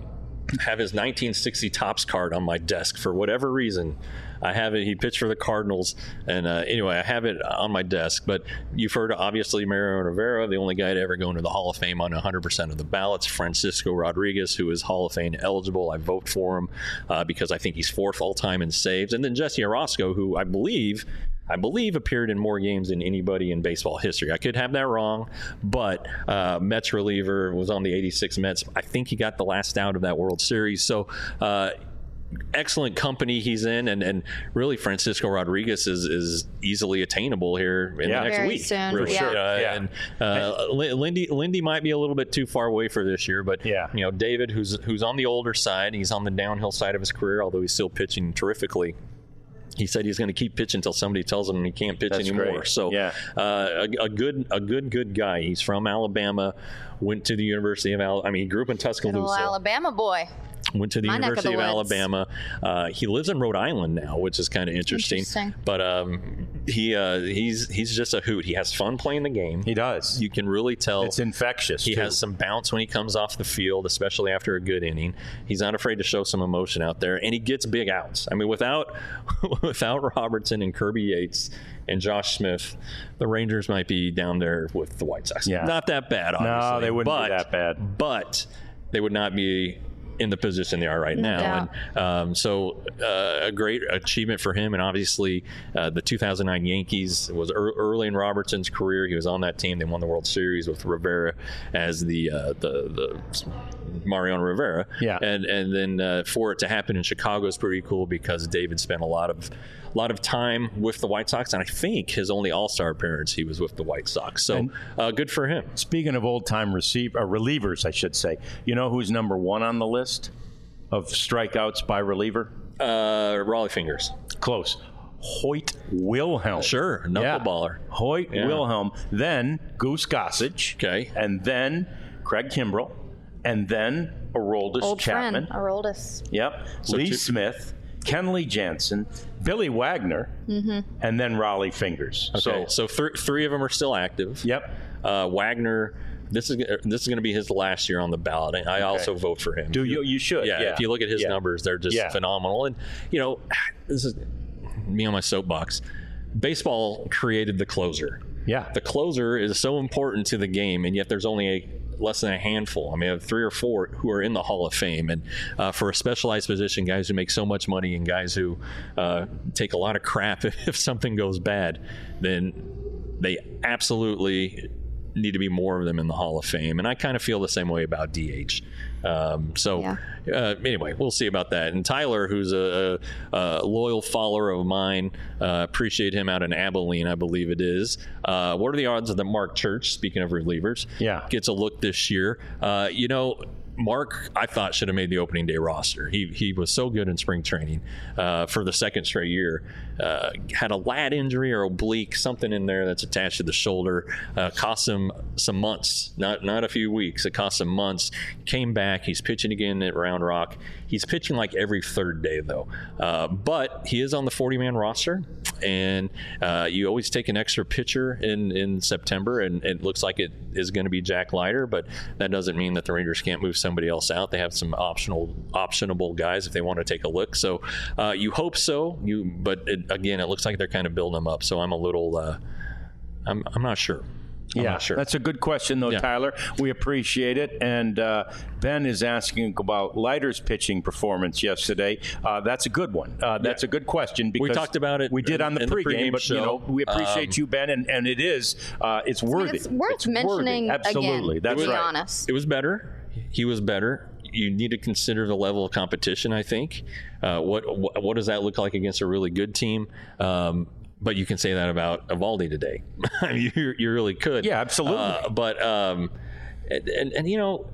have his nineteen sixty Topps card on my desk for whatever reason. I have it. He pitched for the Cardinals, and uh, anyway, I have it on my desk. But you've heard, obviously, Mariano Rivera, the only guy to ever go into the Hall of Fame on one hundred percent of the ballots. Francisco Rodriguez, who is Hall of Fame eligible. I vote for him uh, because I think he's fourth all-time in saves. And then Jesse Orosco, who I believe I believe appeared in more games than anybody in baseball history. I could have that wrong, but uh, Mets reliever, was on the eighty-six Mets. I think he got the last out of that World Series. So uh, excellent company he's in, and, and really Francisco Rodriguez is, is easily attainable here in yeah. the next Very week. soon. For Yeah. sure. Uh, Yeah. And uh, Lindy Lindy might be a little bit too far away for this year, but Yeah. you know, David, who's who's on the older side, he's on the downhill side of his career, although he's still pitching terrifically. He said he's going to keep pitching until somebody tells him he can't pitch That's anymore. great. So, yeah. uh, a, a good, a good, good guy. He's from Alabama. Went to the University of Alabama. I mean, he grew up in Little Tuscaloosa. Alabama boy. Went to the My neck of University the of, woods. Alabama. Uh, he lives in Rhode Island now, which is kind of interesting. Interesting. But um, he uh, he's he's just a hoot. He has fun playing the game. He does. You can really tell. It's infectious. He too. has some bounce when he comes off the field, especially after a good inning. He's not afraid to show some emotion out there, and he gets big outs. I mean, without without Robertson and Kirby Yates and Josh Smith, the Rangers might be down there with the White Sox. Yeah. Not that bad, obviously. No, they wouldn't but, be that bad. But they would not be in the position they are right No now. doubt. And um, so uh, a great achievement for him. And obviously uh, the two thousand nine Yankees was er- early in Robertson's career. He was on that team. They won the World Series with Rivera as the uh, the, the Mariano Rivera. Yeah. And and then uh, for it to happen in Chicago is pretty cool because David spent a lot of a lot of time with the White Sox, and I think his only All-Star appearance he was with the White Sox. So And- uh, good for him. Speaking of old-time receiver, uh, relievers, I should say, you know who's number one on the list of strikeouts by reliever? Uh, Raleigh Fingers. Close. Hoyt Wilhelm. Sure, knuckleballer. Yeah. Hoyt Yeah. Wilhelm. Then Goose Gossage. Okay. And then Craig Kimbrell. And then Aroldis Old Chapman. friend, Aroldis. Yep. So Lee two- Smith. Kenley Jansen, Billy Wagner, and then Raleigh Fingers. Okay, So, so th- three of them are still active. yep. Uh, Wagner, this is this is going to be his last year on the ballot. I also vote for him. Do you? You should. Yeah, Yeah. if you look at his Yeah. numbers, they're just Yeah. phenomenal. And you know, this is me on my soapbox. Baseball created the closer. Yeah. The closer is so important to the game, and yet there's only a less than a handful. I mean, I have three or four who are in the Hall of Fame, and uh, for a specialized position, guys who make so much money and guys who uh, take a lot of crap if, if something goes bad, then they absolutely need to be more of them in the Hall of Fame. And I kind of feel the same way about D H. Um, so Yeah. uh, anyway, we'll see about that. And Tyler, who's a, a, a loyal follower of mine, uh, appreciate him out in Abilene, I believe it is. Uh, what are the odds that Mark Church, speaking of relievers, Yeah. gets a look this year? Uh, you know, Mark, I thought, should have made the opening day roster. He he was so good in spring training uh, for the second straight year. Uh, had a lat injury or oblique, something in there that's attached to the shoulder. Uh, cost him some months, not not a few weeks. It cost him months. Came back. He's pitching again at Round Rock. He's pitching like every third day, though. Uh, but he is on the forty-man roster, and uh, you always take an extra pitcher in, in September, and it looks like it is going to be Jack Leiter, but that doesn't mean that the Rangers can't move somebody else out. They have some optional, optionable guys if they want to take a look. So uh, you hope so. You, but it, again, it looks like they're kind of building them up. So I'm a little, uh, I'm, I'm not sure. I'm yeah, not sure. That's a good question, though, Yeah. Tyler. We appreciate it. And uh, Ben is asking about Leiter's pitching performance yesterday. Uh, that's a good one. Uh, that's Yeah. a good question because We talked about it We did on the in the pregame, pregame but you show. know we appreciate Um, you, Ben, and, and it is uh, it's worthy. It's worth It's mentioning worthy. Absolutely, again, that's to be right. honest. It was better. He was better. You need to consider the level of competition, I think. Uh, what, what what does that look like against a really good team? Um, but you can say that about Evaldi today. I mean, you, you really could. Yeah, absolutely. Uh, but, um, and, and, and, you know,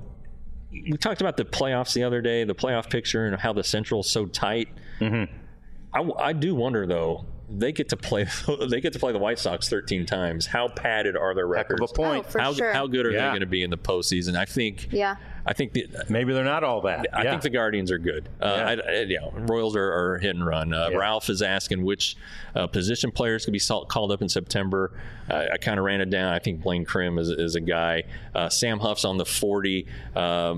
we talked about the playoffs the other day, the playoff picture and how the Central's so tight. Mm-hmm. I, I do wonder, though, they get to play they get to play the White Sox thirteen times. How padded are their Heck records? of a point. Oh, for how, sure. how good are Yeah. they going to be in the postseason? I think. Yeah. I think the, Maybe they're not all that. I yeah. think the Guardians are good. Uh, Yeah. I, I, you know, Royals are, are hit and run. Uh, Yeah. Ralph is asking which uh, position players could be salt, called up in September. Uh, I kind of ran it down. I think Blaine Krim is, is a guy. Uh, Sam Huff's on the forty. Um,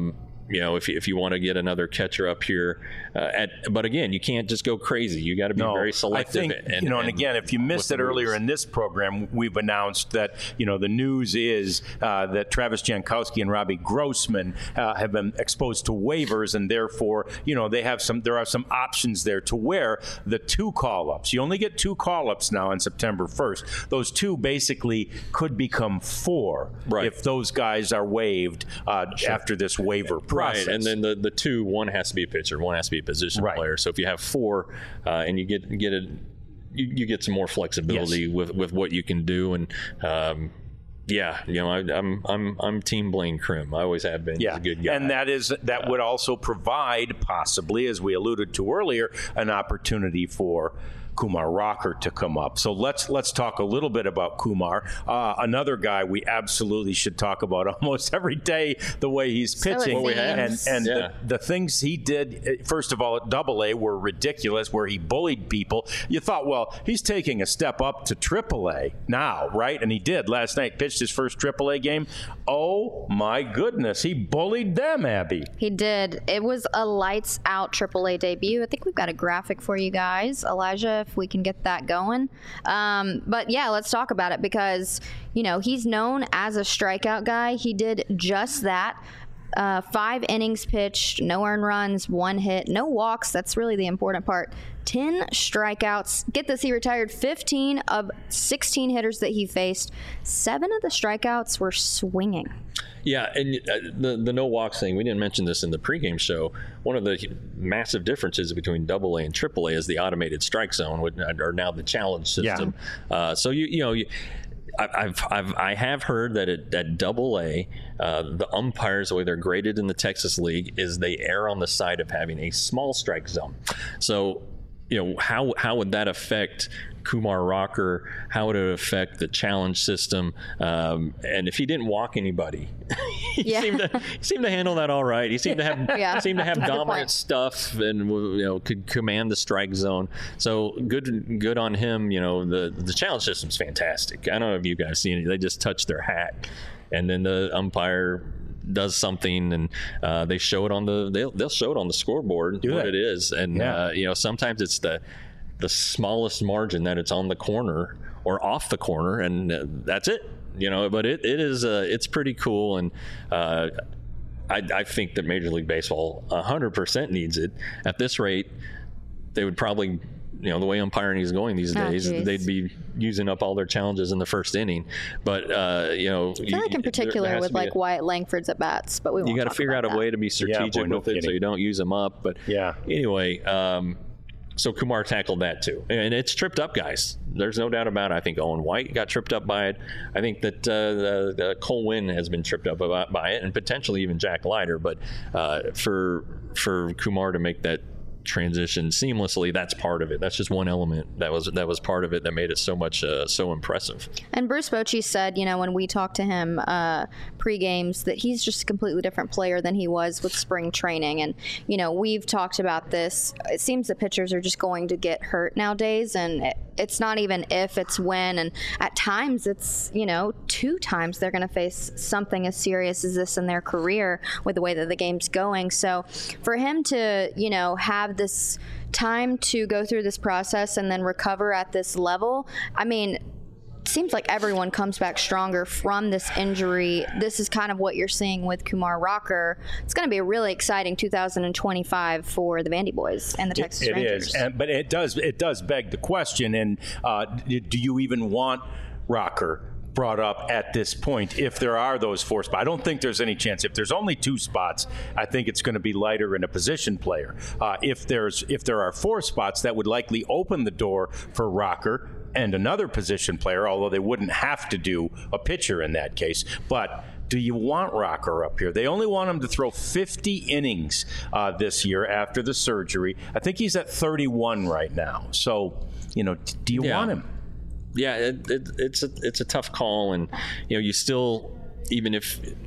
you know, if you, if you want to get another catcher up here, uh, at, but again, you can't just go crazy. You got to be no, very selective. I think, and, you know, and, and again, if you missed it earlier in this program, we've announced that, you know, the news is uh, that Travis Jankowski and Robbie Grossman uh, have been exposed to waivers, and therefore, you know, they have some. There are some options there to where the two call-ups. You only get two call-ups now on September first. Those two basically could become four right. if those guys are waived uh, sure. after this waiver process. Right, and then the, the two, one has to be a pitcher, one has to be a position right. player. So if you have four uh, and you get get it, you, you get some more flexibility yes. with, with what you can do. And um, yeah, you know, I, I'm I'm I'm Team Blaine Crim. I always have been. Yeah, He's a good guy. And that is that uh, would also provide, possibly, as we alluded to earlier, an opportunity for Kumar Rocker to come up. So let's let's talk a little bit about Kumar. Uh, another guy we absolutely should talk about almost every day, the way he's pitching. So and and yeah. the, the things he did, first of all, at Double A were ridiculous, where he bullied people. You thought, well, he's taking a step up to Triple A now, right? And he did last night, pitched his first Triple A game. Oh, my goodness. He bullied them, Abby. He did. It was a lights out Triple A debut. I think we've got a graphic for you guys. Elijah, if we can get that going. Um, but yeah, let's talk about it because, you know, he's known as a strikeout guy. He did just that. Uh, five innings pitched, no earned runs, one hit, no walks. That's really the important part. ten strikeouts. Get this, he retired fifteen of sixteen hitters that he faced. Seven of the strikeouts were swinging. Yeah, and uh, the the no walks thing, we didn't mention this in the pregame show. One of the massive differences between Double A and Triple A is the automated strike zone, which are now the challenge system. Yeah. Uh, so you you know. You, I've, I've, I have heard that at, at Double A, uh, the umpires, the way they're graded in the Texas League, is they err on the side of having a small strike zone. So, you know, how how would that affect Kumar Rocker? How would it affect the challenge system? Um, and if he didn't walk anybody, he, yeah. seemed to, he seemed to handle that all right. He seemed to have yeah. seemed to have dominant stuff and, you know, could command the strike zone. So good good on him. You know, the the challenge system's fantastic. I don't know if you guys seen it. They just touch their hat, and then the umpire does something, and uh, they show it on the they'll, they'll show it on the scoreboard Do what they? it is. And yeah. uh, you know, sometimes it's the the smallest margin that it's on the corner or off the corner, and uh, that's it. You know, but it, it is uh, it's pretty cool, and uh, I, I think that Major League Baseball one hundred percent needs it. At this rate, they would probably, you know, the way umpiring is going these Oh, days, geez. they'd be using up all their challenges in the first inning. But uh, you know, I feel like in particular with like a, Wyatt Langford's at bats, but we won't you got to talk figure about out a that. way to be strategic boy, no with it, so kidding. you don't use them up. But Yeah. anyway. Um, So Kumar tackled that too, and it's tripped up guys. There's no doubt about it. I think Owen White got tripped up by it. I think that uh, the, the Cole Winn has been tripped up about, by it, and potentially even Jack Leiter. But uh, for for Kumar to make that transition seamlessly, that's part of it. That's just one element that was that was part of it that made it so much uh, so impressive. And Bruce Bochy said, you know, when we talked to him uh, pre-games, that he's just a completely different player than he was with spring training. And, you know, we've talked about this. It seems that pitchers are just going to get hurt nowadays, and it, it's not even if, it's when. And at times it's, you know, two times they're going to face something as serious as this in their career with the way that the game's going. So for him to, you know, have this time to go through this process and then recover at this level, I mean, it seems like everyone comes back stronger from this injury. This is kind of what you're seeing with Kumar Rocker. It's going to be a really exciting two thousand twenty-five for the Vandy Boys and the Texas it, it Rangers. is, and, but it does it does beg the question, and uh, do you even want Rocker brought up at this point if there are those four spots? I don't think there's any chance. If there's only two spots, I think it's going to be Leiter and a position player. Uh, if there's if there are four spots, that would likely open the door for Rocker and another position player, although they wouldn't have to do a pitcher in that case. But do you want Rocker up here? They only want him to throw fifty innings uh, this year after the surgery. I think he's at thirty-one right now. So, you know, do you Yeah. want him? Yeah, it, it, it's a it's a tough call, and you know, you still, even if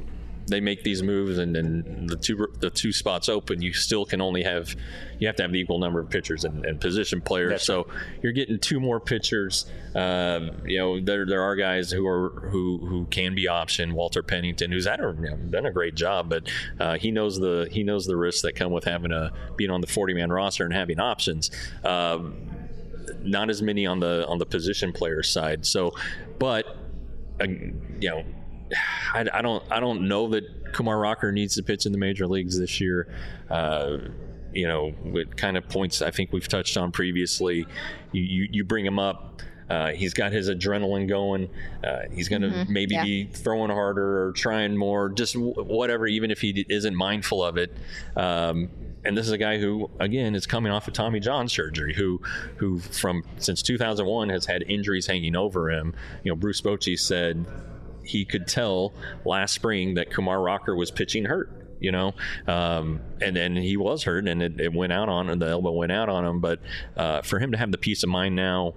they make these moves and then the two the two spots open, you still can only have you have to have the equal number of pitchers and, and position players. That's so right. You're getting two more pitchers. Uh, you know, there there are guys who are who who can be optioned. Walter Pennington, who's had a, you know, done a great job, but uh, he knows the he knows the risks that come with having a being on the forty-man roster and having options. Um, not as many on the on the position player side. So, but uh, you know. I, I don't. I don't know that Kumar Rocker needs to pitch in the major leagues this year. Uh, you know, it kind of points. I think we've touched on previously. You you, you bring him up. Uh, he's got his adrenaline going. Uh, he's going to mm-hmm. maybe yeah. be throwing harder or trying more, just w- whatever. Even if he isn't mindful of it. Um, and this is a guy who, again, is coming off of Tommy John surgery. Who, who from since two thousand one has had injuries hanging over him. You know, Bruce Bochy said he could tell last spring that Kumar Rocker was pitching hurt, you know, um, and and he was hurt, and it, it went out on him, the elbow went out on him. But uh, for him to have the peace of mind now,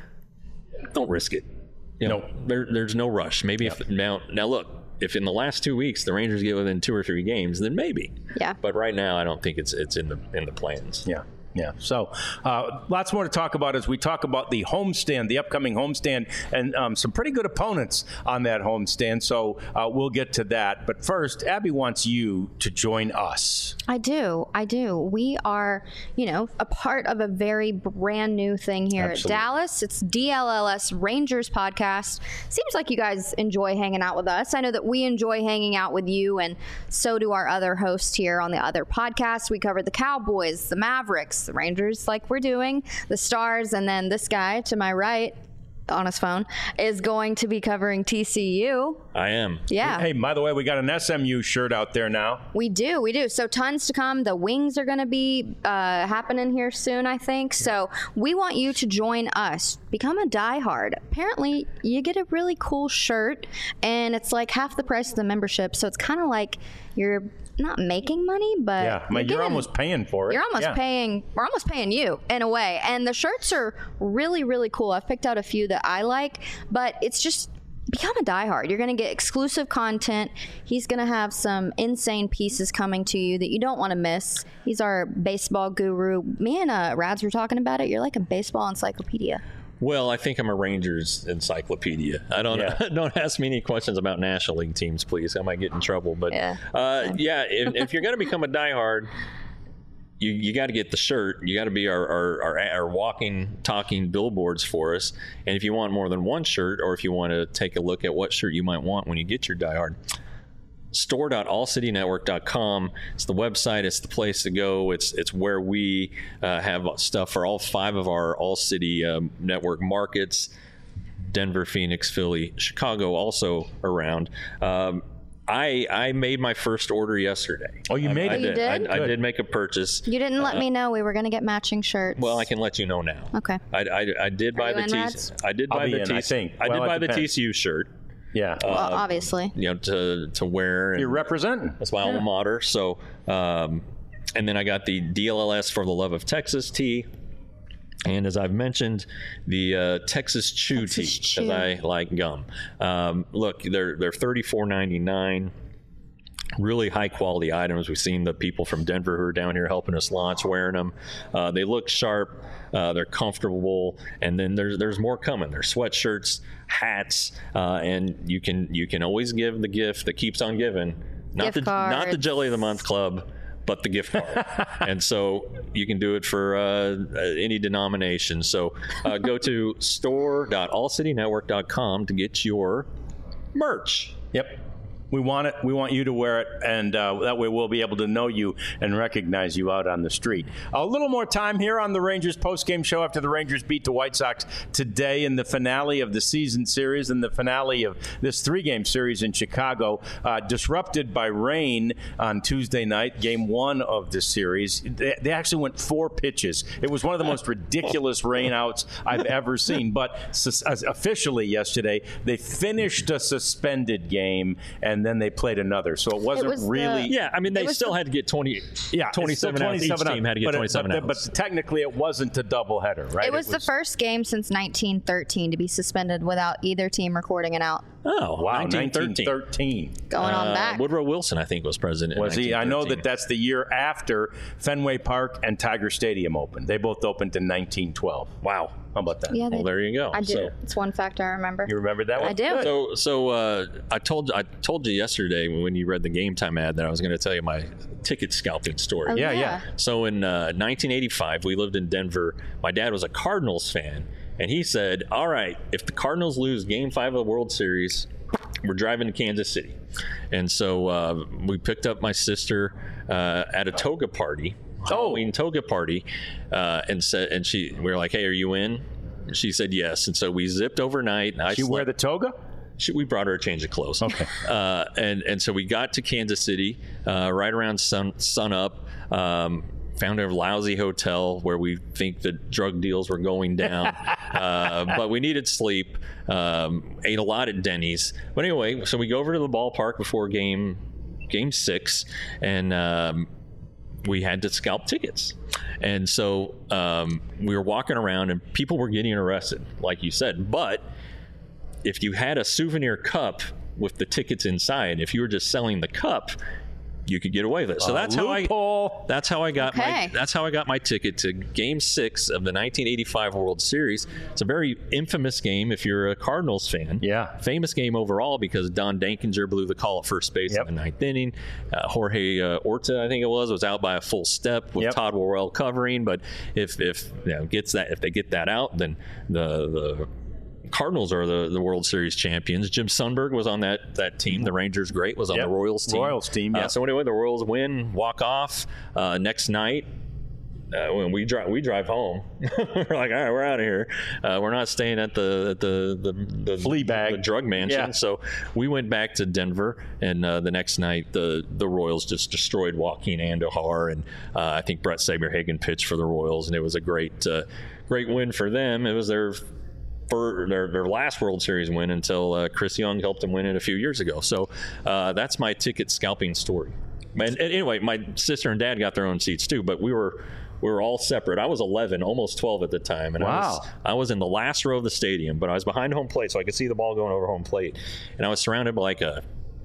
don't risk it. You know, no. there, there's no rush. Maybe yep. if now now look, if in the last two weeks the Rangers get within two or three games, then maybe. Yeah. But right now, I don't think it's it's in the in the plans. Yeah. Yeah, so uh, lots more to talk about as we talk about the homestand, the upcoming homestand, and um, some pretty good opponents on that homestand. So uh, we'll get to that. But first, Abby wants you to join us. I do. I do. We are, you know, a part of a very brand new thing here Absolutely. at Dallas. It's D L L S Rangers podcast. Seems like you guys enjoy hanging out with us. I know that we enjoy hanging out with you, and so do our other hosts here on the other podcasts. We cover the Cowboys, the Mavericks, the Rangers, like we're doing, the Stars, and then this guy to my right on his phone is going to be covering T C U. I am. Yeah. Hey, by the way, we got an S M U shirt out there now. We do. We do. So tons to come. The wings are going to be uh, happening here soon, I think. So we want you to join us. Become a diehard. Apparently, you get a really cool shirt, and it's like half the price of the membership. So it's kind of like you're not making money, but yeah, you're, you're getting, almost paying for it. You're almost yeah. paying. We're almost paying you in a way. And the shirts are really, really cool. I've picked out a few that I like, but it's just become a diehard. You're going to get exclusive content. He's going to have some insane pieces coming to you that you don't want to miss. He's our baseball guru. Me and uh, Rads were talking about it. You're like a baseball encyclopedia. Well, I think I'm a Rangers encyclopedia. I don't yeah. don't ask me any questions about National League teams, please. I might get in trouble. But yeah, uh, yeah if, if you're going to become a diehard, you you got to get the shirt. You got to be our, our, our, our walking, talking billboards for us. And if you want more than one shirt, or if you want to take a look at what shirt you might want when you get your diehard, store dot all city network dot com. It's the website. It's the place to go. It's it's where we uh, have stuff for all five of our All City um, Network markets. Denver, Phoenix, Philly, Chicago also around. Um, I I made my first order yesterday. Oh, you made I, it? I You did. did? I, I did make a purchase. You didn't let uh, me know we were going to get matching shirts. Well, I can let you know now. Okay. I, I, I did buy you the in, T. Mads? I did I'll buy be the in, T. I think. I Well, did it buy the depends. T C U shirt. Yeah. Well, obviously. You know, to to wear. And You're representing. that's my alma mater. So, um, and then I got the D L L S for the Love of Texas tee. And as I've mentioned, the uh, Texas Chew Texas tee, Chew. because I like gum. Um, look, they're they're thirty-four ninety-nine. Really high quality items. We've seen the people from Denver who are down here helping us launch wearing them. Uh, they look sharp. Uh, they're comfortable. And then there's there's more coming. There's sweatshirts, hats, uh, and you can you can always give the gift that keeps on giving. Not Gift the not the cards. Jelly of the Month Club, but the gift card. And so you can do it for uh, any denomination. So uh, go to store dot all city network dot com to get your merch. Yep. We want it. We want you to wear it, and uh, that way we'll be able to know you and recognize you out on the street. A little more time here on the Rangers postgame show after the Rangers beat the White Sox today in the finale of the season series and the finale of this three-game series in Chicago, uh, disrupted by rain on Tuesday night, game one of the series. They, they actually went four pitches. It was one of the most ridiculous rainouts I've ever seen. But sus- officially yesterday, they finished a suspended game, and And then they played another, so it wasn't It was the- really. Yeah, I mean, they was still the- had to get twenty, Yeah, twenty-seven outs. Each team had to get but it- twenty-seven but, outs. But technically, it wasn't a doubleheader, right? It was, the first game since nineteen thirteen to be suspended without either team recording an out. Oh, Wow, nineteen thirteen. nineteen thirteen. Going on Uh, back. Woodrow Wilson, I think, was president. Was in he? I know nineteen thirteen. that that's the year after Fenway Park and Tiger Stadium opened. They both opened in nineteen twelve. Wow. How about that? Yeah, Well, there you go. I do. So- It's one fact I remember. You remember that one? I do. Good. So, so uh, I told I told you yesterday when you read the Game Time ad that I was going to tell you my ticket scalping story. Oh, Yeah, yeah. So in uh, nineteen eighty-five, we lived in Denver. My dad was a Cardinals fan, and he said, "All right, if the Cardinals lose Game Five of the World Series, we're driving to Kansas City." And so uh, we picked up my sister uh, at a toga party, Halloween toga party, uh, and said, and she, we were like, "Hey, are you in?" She said yes, and so we zipped overnight. And I Did you wear the slept- toga? She, we brought her a change of clothes. Okay. Uh, and and so we got to Kansas City uh, right around sun sun up. Um, found a lousy hotel where we think the drug deals were going down, uh, but we needed sleep. Um, ate a lot at Denny's. But anyway, so we go over to the ballpark before game game six, and um, we had to scalp tickets. And so um, we were walking around, and people were getting arrested, like you said. But if you had a souvenir cup with the tickets inside, if you were just selling the cup, you could get away with it. So Uh, that's how I loophole. that's how I got Okay. my that's how I got my ticket to Game Six of the nineteen eighty-five World Series. It's a very infamous game if you're a Cardinals fan. Yeah. Famous game overall because Don Dankinger blew the call at first base Yep. in the ninth inning. Uh, Jorge uh, Orta, I think it was, was out by a full step with Yep. Todd Worrell covering. But if if you know, gets that if they get that out, then the the Cardinals are the, the World Series champions. Jim Sundberg was on that that team. The Rangers great was on Yep. the Royals team. Royals team, Uh, yeah. so anyway, the Royals win, walk off. Uh, next night, uh, when we drive, we drive home. We're like, all right, we're out of here. Uh, we're not staying at the at the the, the Flea bag. the drug mansion. Yeah. So we went back to Denver, and uh, the next night, the the Royals just destroyed Joaquin Andujar, and uh, I think Brett Saberhagen pitched for the Royals, and it was a great uh, great win for them. It was their for their, their last World Series win until uh, Chris Young helped them win it a few years ago. So uh, that's my ticket scalping story. And, and anyway, my sister and dad got their own seats too, but we were we were all separate. I was eleven, almost twelve at the time, and I was Wow. I was in the last row of the stadium, but I was behind home plate, so I could see the ball going over home plate, and I was surrounded by like a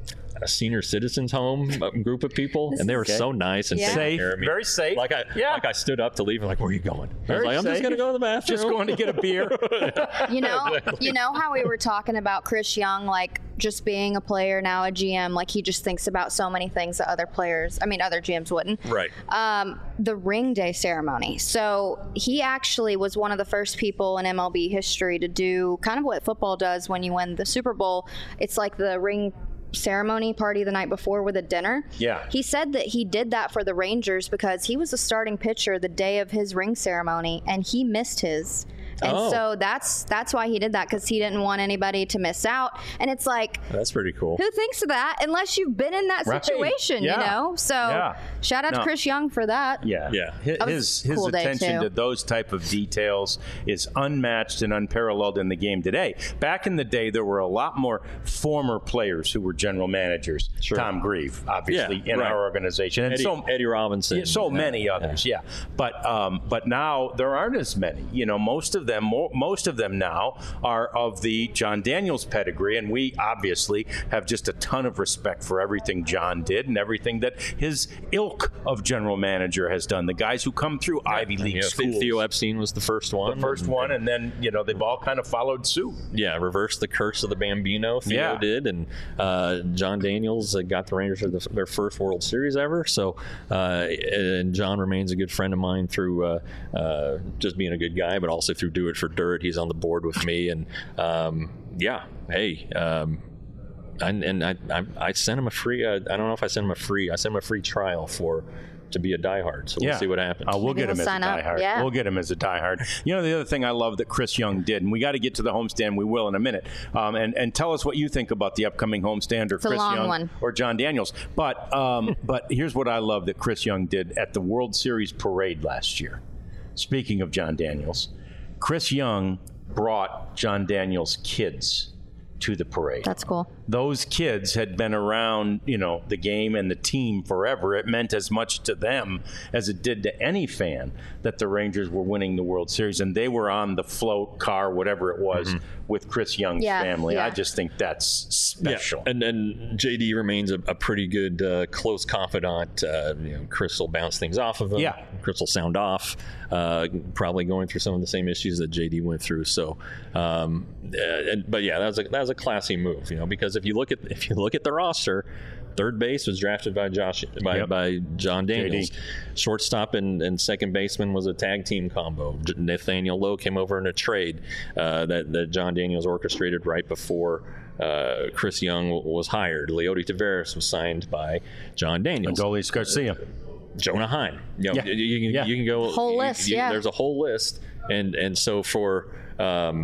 a senior citizens home group of people, and they were Okay. so nice and Yeah. taking Safe, care of me. very safe. Like I, Yeah. like I stood up to leave, and like, where are you going? I was Very like, I'm just safe. gonna go to the bathroom. Just going to get a beer. You know, you know how we were talking about Chris Young, like just being a player, now a G M, like he just thinks about so many things that other players, I mean, other G Ms wouldn't. Right. Um, the ring day ceremony. So he actually was one of the first people in M L B history to do kind of what football does when you win the Super Bowl. It's like the ring ceremony party the night before with a dinner. Yeah. He said that he did that for the Rangers because he was a starting pitcher the day of his ring ceremony and he missed his. And Oh. so that's that's why he did that, because he didn't want anybody to miss out. And it's like, That's pretty cool. who thinks of that unless you've been in that Right. situation, Yeah. you know? So Yeah. shout out No. to Chris Young for that. Yeah, Yeah. His That was his, a his cool day, attention too. to those type of details is unmatched and unparalleled in the game today. Back in the day, there were a lot more former players who were general managers. Sure. Tom Grieve, obviously, Yeah, in right. our organization, and Eddie, so Eddie Robinson. yeah, so Yeah, many others, yeah. But um, but now there aren't as many. You know, most of them, mo- most of them now are of the John Daniels pedigree, and we obviously have just a ton of respect for everything John did and everything that his ilk of general manager has done. The guys who come through Ivy League Yeah, schools. Theo Epstein was the first one. the first and- one, and then you know they've all kind of followed suit. Yeah, reversed the curse of the Bambino. Theo Yeah. did, and uh, John Daniels uh, got the Rangers to the, their first World Series ever. So, uh, and John remains a good friend of mine through uh, uh, just being a good guy, but also through Do It for Dirt. He's on the board with me, and um, yeah, hey. Um, and, and I, I, I sent him a free. Uh, I don't know if I sent him a free. I sent him a free trial for to be a diehard. So we'll Yeah. see what happens. Uh, we'll Maybe get him he'll as a sign up. diehard. Yeah. We'll get him as a diehard. You know, the other thing I love that Chris Young did, and we got to get to the homestand. We will in a minute. Um, and and tell us what you think about the upcoming homestand, or a Chris long Young one. or John Daniels. But um, but here's what I love that Chris Young did at the World Series parade last year. Speaking of John Daniels, Chris Young brought John Daniels' kids to the parade. That's cool. those kids had been around, you know, the game and the team forever. It meant as much to them as it did to any fan that the Rangers were winning the World Series, and they were on the float car, whatever it was, mm-hmm. with Chris Young's yeah, family. Yeah. I just think that's special. Yeah. And then J D remains a, a pretty good uh, close confidant. Uh, you know, Chris will bounce things off of him. Yeah. Chris will sound off. Uh, probably going through some of the same issues that J D went through. So, um, uh, and, but yeah, that was a that was a classy move, you know, because if you look at if you look at the roster, third base was drafted by Josh by, yep. by John Daniels. J D. Shortstop and, and second baseman was a tag team combo. Nathaniel Lowe came over in a trade uh, that that John Daniels orchestrated right before uh, Chris Young w- was hired. Leody Taveras was signed by John Daniels. Adolis Garcia. Jonah Heim. You know, yeah. you, you, can, yeah. you can go whole you, list. you, yeah, there's a whole list, and and so for um,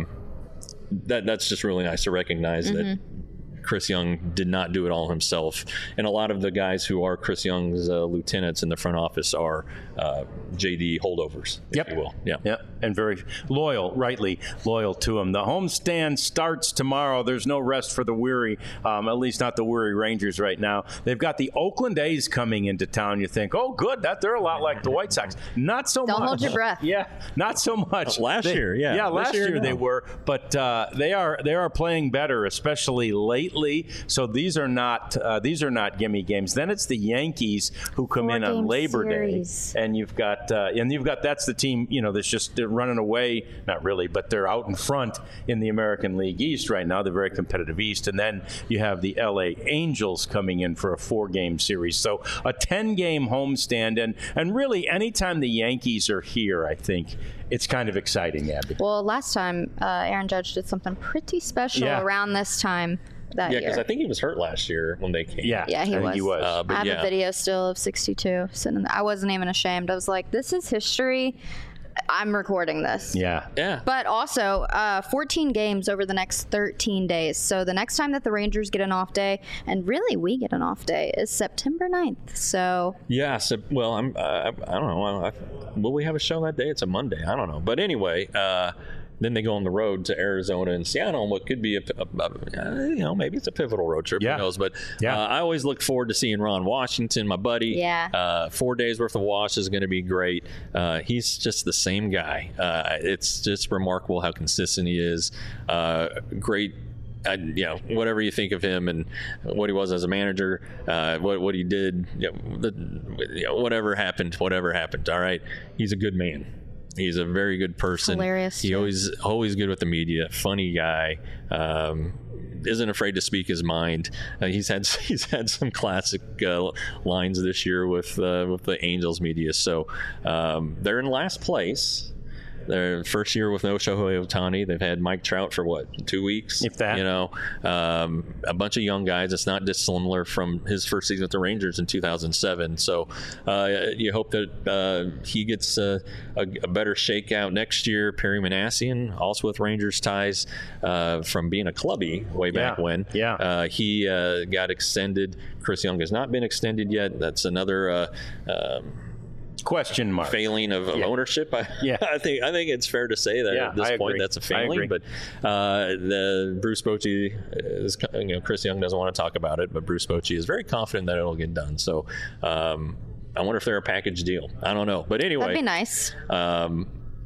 that that's just really nice to recognize mm-hmm. that Chris Young did not do it all himself, and a lot of the guys who are Chris Young's uh, lieutenants in the front office are uh, J D holdovers, if yep. you will. Yeah, yeah, and very loyal, rightly loyal to him. The homestand starts tomorrow. There's no rest for the weary, um, at least not the weary Rangers right now. They've got the Oakland A's coming into town. You think, oh, good, that they're a lot like the White Sox. Not so Don't much. Don't hold your breath. Yeah, not so much. Last they, year, yeah, yeah, this last year, year they no. were, but uh, they are they are playing better, especially lately. So these are not uh, these are not gimme games. Then it's the Yankees who come Four in on game Labor series. Day, and you've got uh, and you've got that's the team. You know, that's just they're running away. Not really, but they're out in front in the American League East right now. They're very competitive East, and then you have the L A Angels coming in for a four-game series. So a ten-game homestand, and and really anytime the Yankees are here, I think it's kind of exciting, Abby. Well, last time uh, Aaron Judge did something pretty special Yeah. around this time that yeah, year. because I think he was hurt last year when they came. Yeah, Yeah, he I think was. He was. Uh, but I have yeah. a video still of sixty-two sitting there. I wasn't even ashamed. I was like, this is history. I'm recording this. yeah. Yeah. But also, uh, fourteen games over the next thirteen days. So the next time that the Rangers get an off day, and really we get an off day, is September ninth. So Yeah, so, well, I'm, uh, I, I don't know. I, will we have a show that day? It's a Monday. I don't know. But anyway, uh, then they go on the road to Arizona and Seattle, and what could be a, a, a you know, maybe it's a pivotal road trip. Yeah. Who knows? But Yeah. uh, I always look forward to seeing Ron Washington, my buddy. Yeah. Uh, four days worth of wash is going to be great. Uh, he's just the same guy. Uh, it's just remarkable how consistent he is. Uh, great. I, you know, whatever you think of him and what he was as a manager, uh, what what he did, you know, the, you know, whatever happened, whatever happened. All right, he's a good man. He's a very good person. Hilarious, He too. always always good with the media. Funny guy. Um, isn't afraid to speak his mind. Uh, he's had he's had some classic uh, lines this year with uh, with the Angels media. So um, they're in last place. Their first year with no Shohei Ohtani. They've had Mike Trout for what, two weeks? If that. You know, um, a bunch of young guys. It's not dissimilar from his first season with the Rangers in two thousand seven. So uh, you hope that uh, he gets a, a, a better shakeout next year. Perry Manassian, also with Rangers ties uh, from being a clubby way back Yeah. when. Yeah. Uh, he uh, got extended. Chris Young has not been extended yet. That's another uh, um, Question mark. failing of, of Yeah. ownership. I, Yeah. I think I think it's fair to say that Yeah, at this I point agree. that's a I failing. agree. But uh, the Bruce Bochy is, you know, Chris Young doesn't want to talk about it, but Bruce Bochy is very confident that it'll get done. So um, I wonder if they're a package deal. I don't know, but anyway, that'd be nice. um,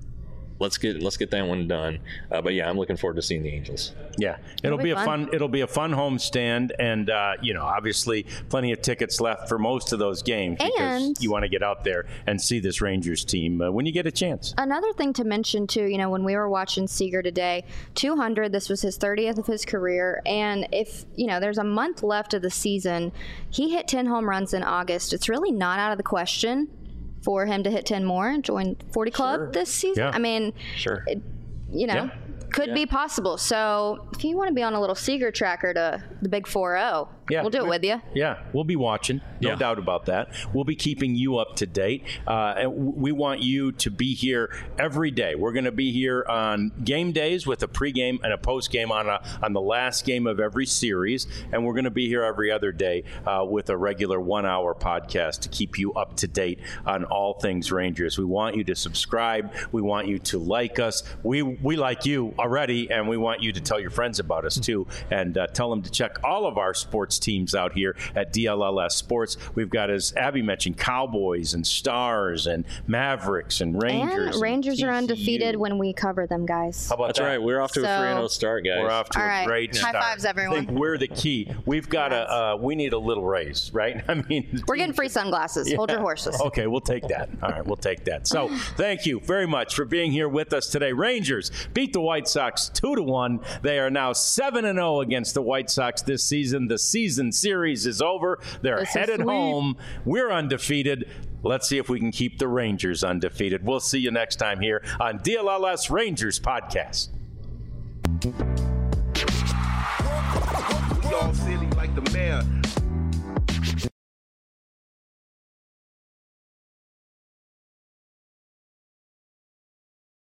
let's get let's get that one done. Uh, but yeah, I'm looking forward to seeing the Angels. Yeah, it'll be be a fun. fun. It'll be a fun homestand, and uh, you know, obviously, plenty of tickets left for most of those games because And- you want to get out there and see this Rangers team uh, when you get a chance. Another thing to mention too, you know, when we were watching Seager today, two hundred, this was his thirtieth of his career, and if, you know, there's a month left of the season, he hit ten home runs in August. It's really not out of the question for him to hit ten more and join forty Club Sure. this season. Yeah. I mean, Sure. it, you know, Yeah. could Yeah. be possible. So if you want to be on a little Seager tracker to the big four oh, Yeah, we'll do it we- with you. Yeah, we'll be watching, no Yeah. doubt about that. We'll be keeping you up to date. Uh, and w- we want you to be here every day. We're going to be here on game days with a pregame and a postgame on a, on the last game of every series, and we're going to be here every other day uh, with a regular one-hour podcast to keep you up to date on all things Rangers. We want you to subscribe. We want you to like us. We we like you already, and we want you to tell your friends about us too, and uh, tell them to check all of our sports teams out here at D L L S Sports. We've got, as Abby mentioned, Cowboys and Stars and Mavericks and Rangers. And Rangers and are undefeated when we cover them, guys. How about That's that? right. We're off to So- a three and oh start, guys. We're off to All a right. great High start. fives, everyone. I think we're the key. We've got Yes. a. Uh, we need a little raise, right? I mean, We're getting free sunglasses. Yeah. Hold your horses. Okay, we'll take that. All right, we'll take that. So, thank you very much for being here with us today. Rangers beat the White Sox two to one. They are now seven and zero against the White Sox this season. The season series is over. They're This is headed sweet. home. We're undefeated. Let's see if we can keep the Rangers undefeated. We'll see you next time here on D L L S Rangers Podcast. We all silly like the mayor.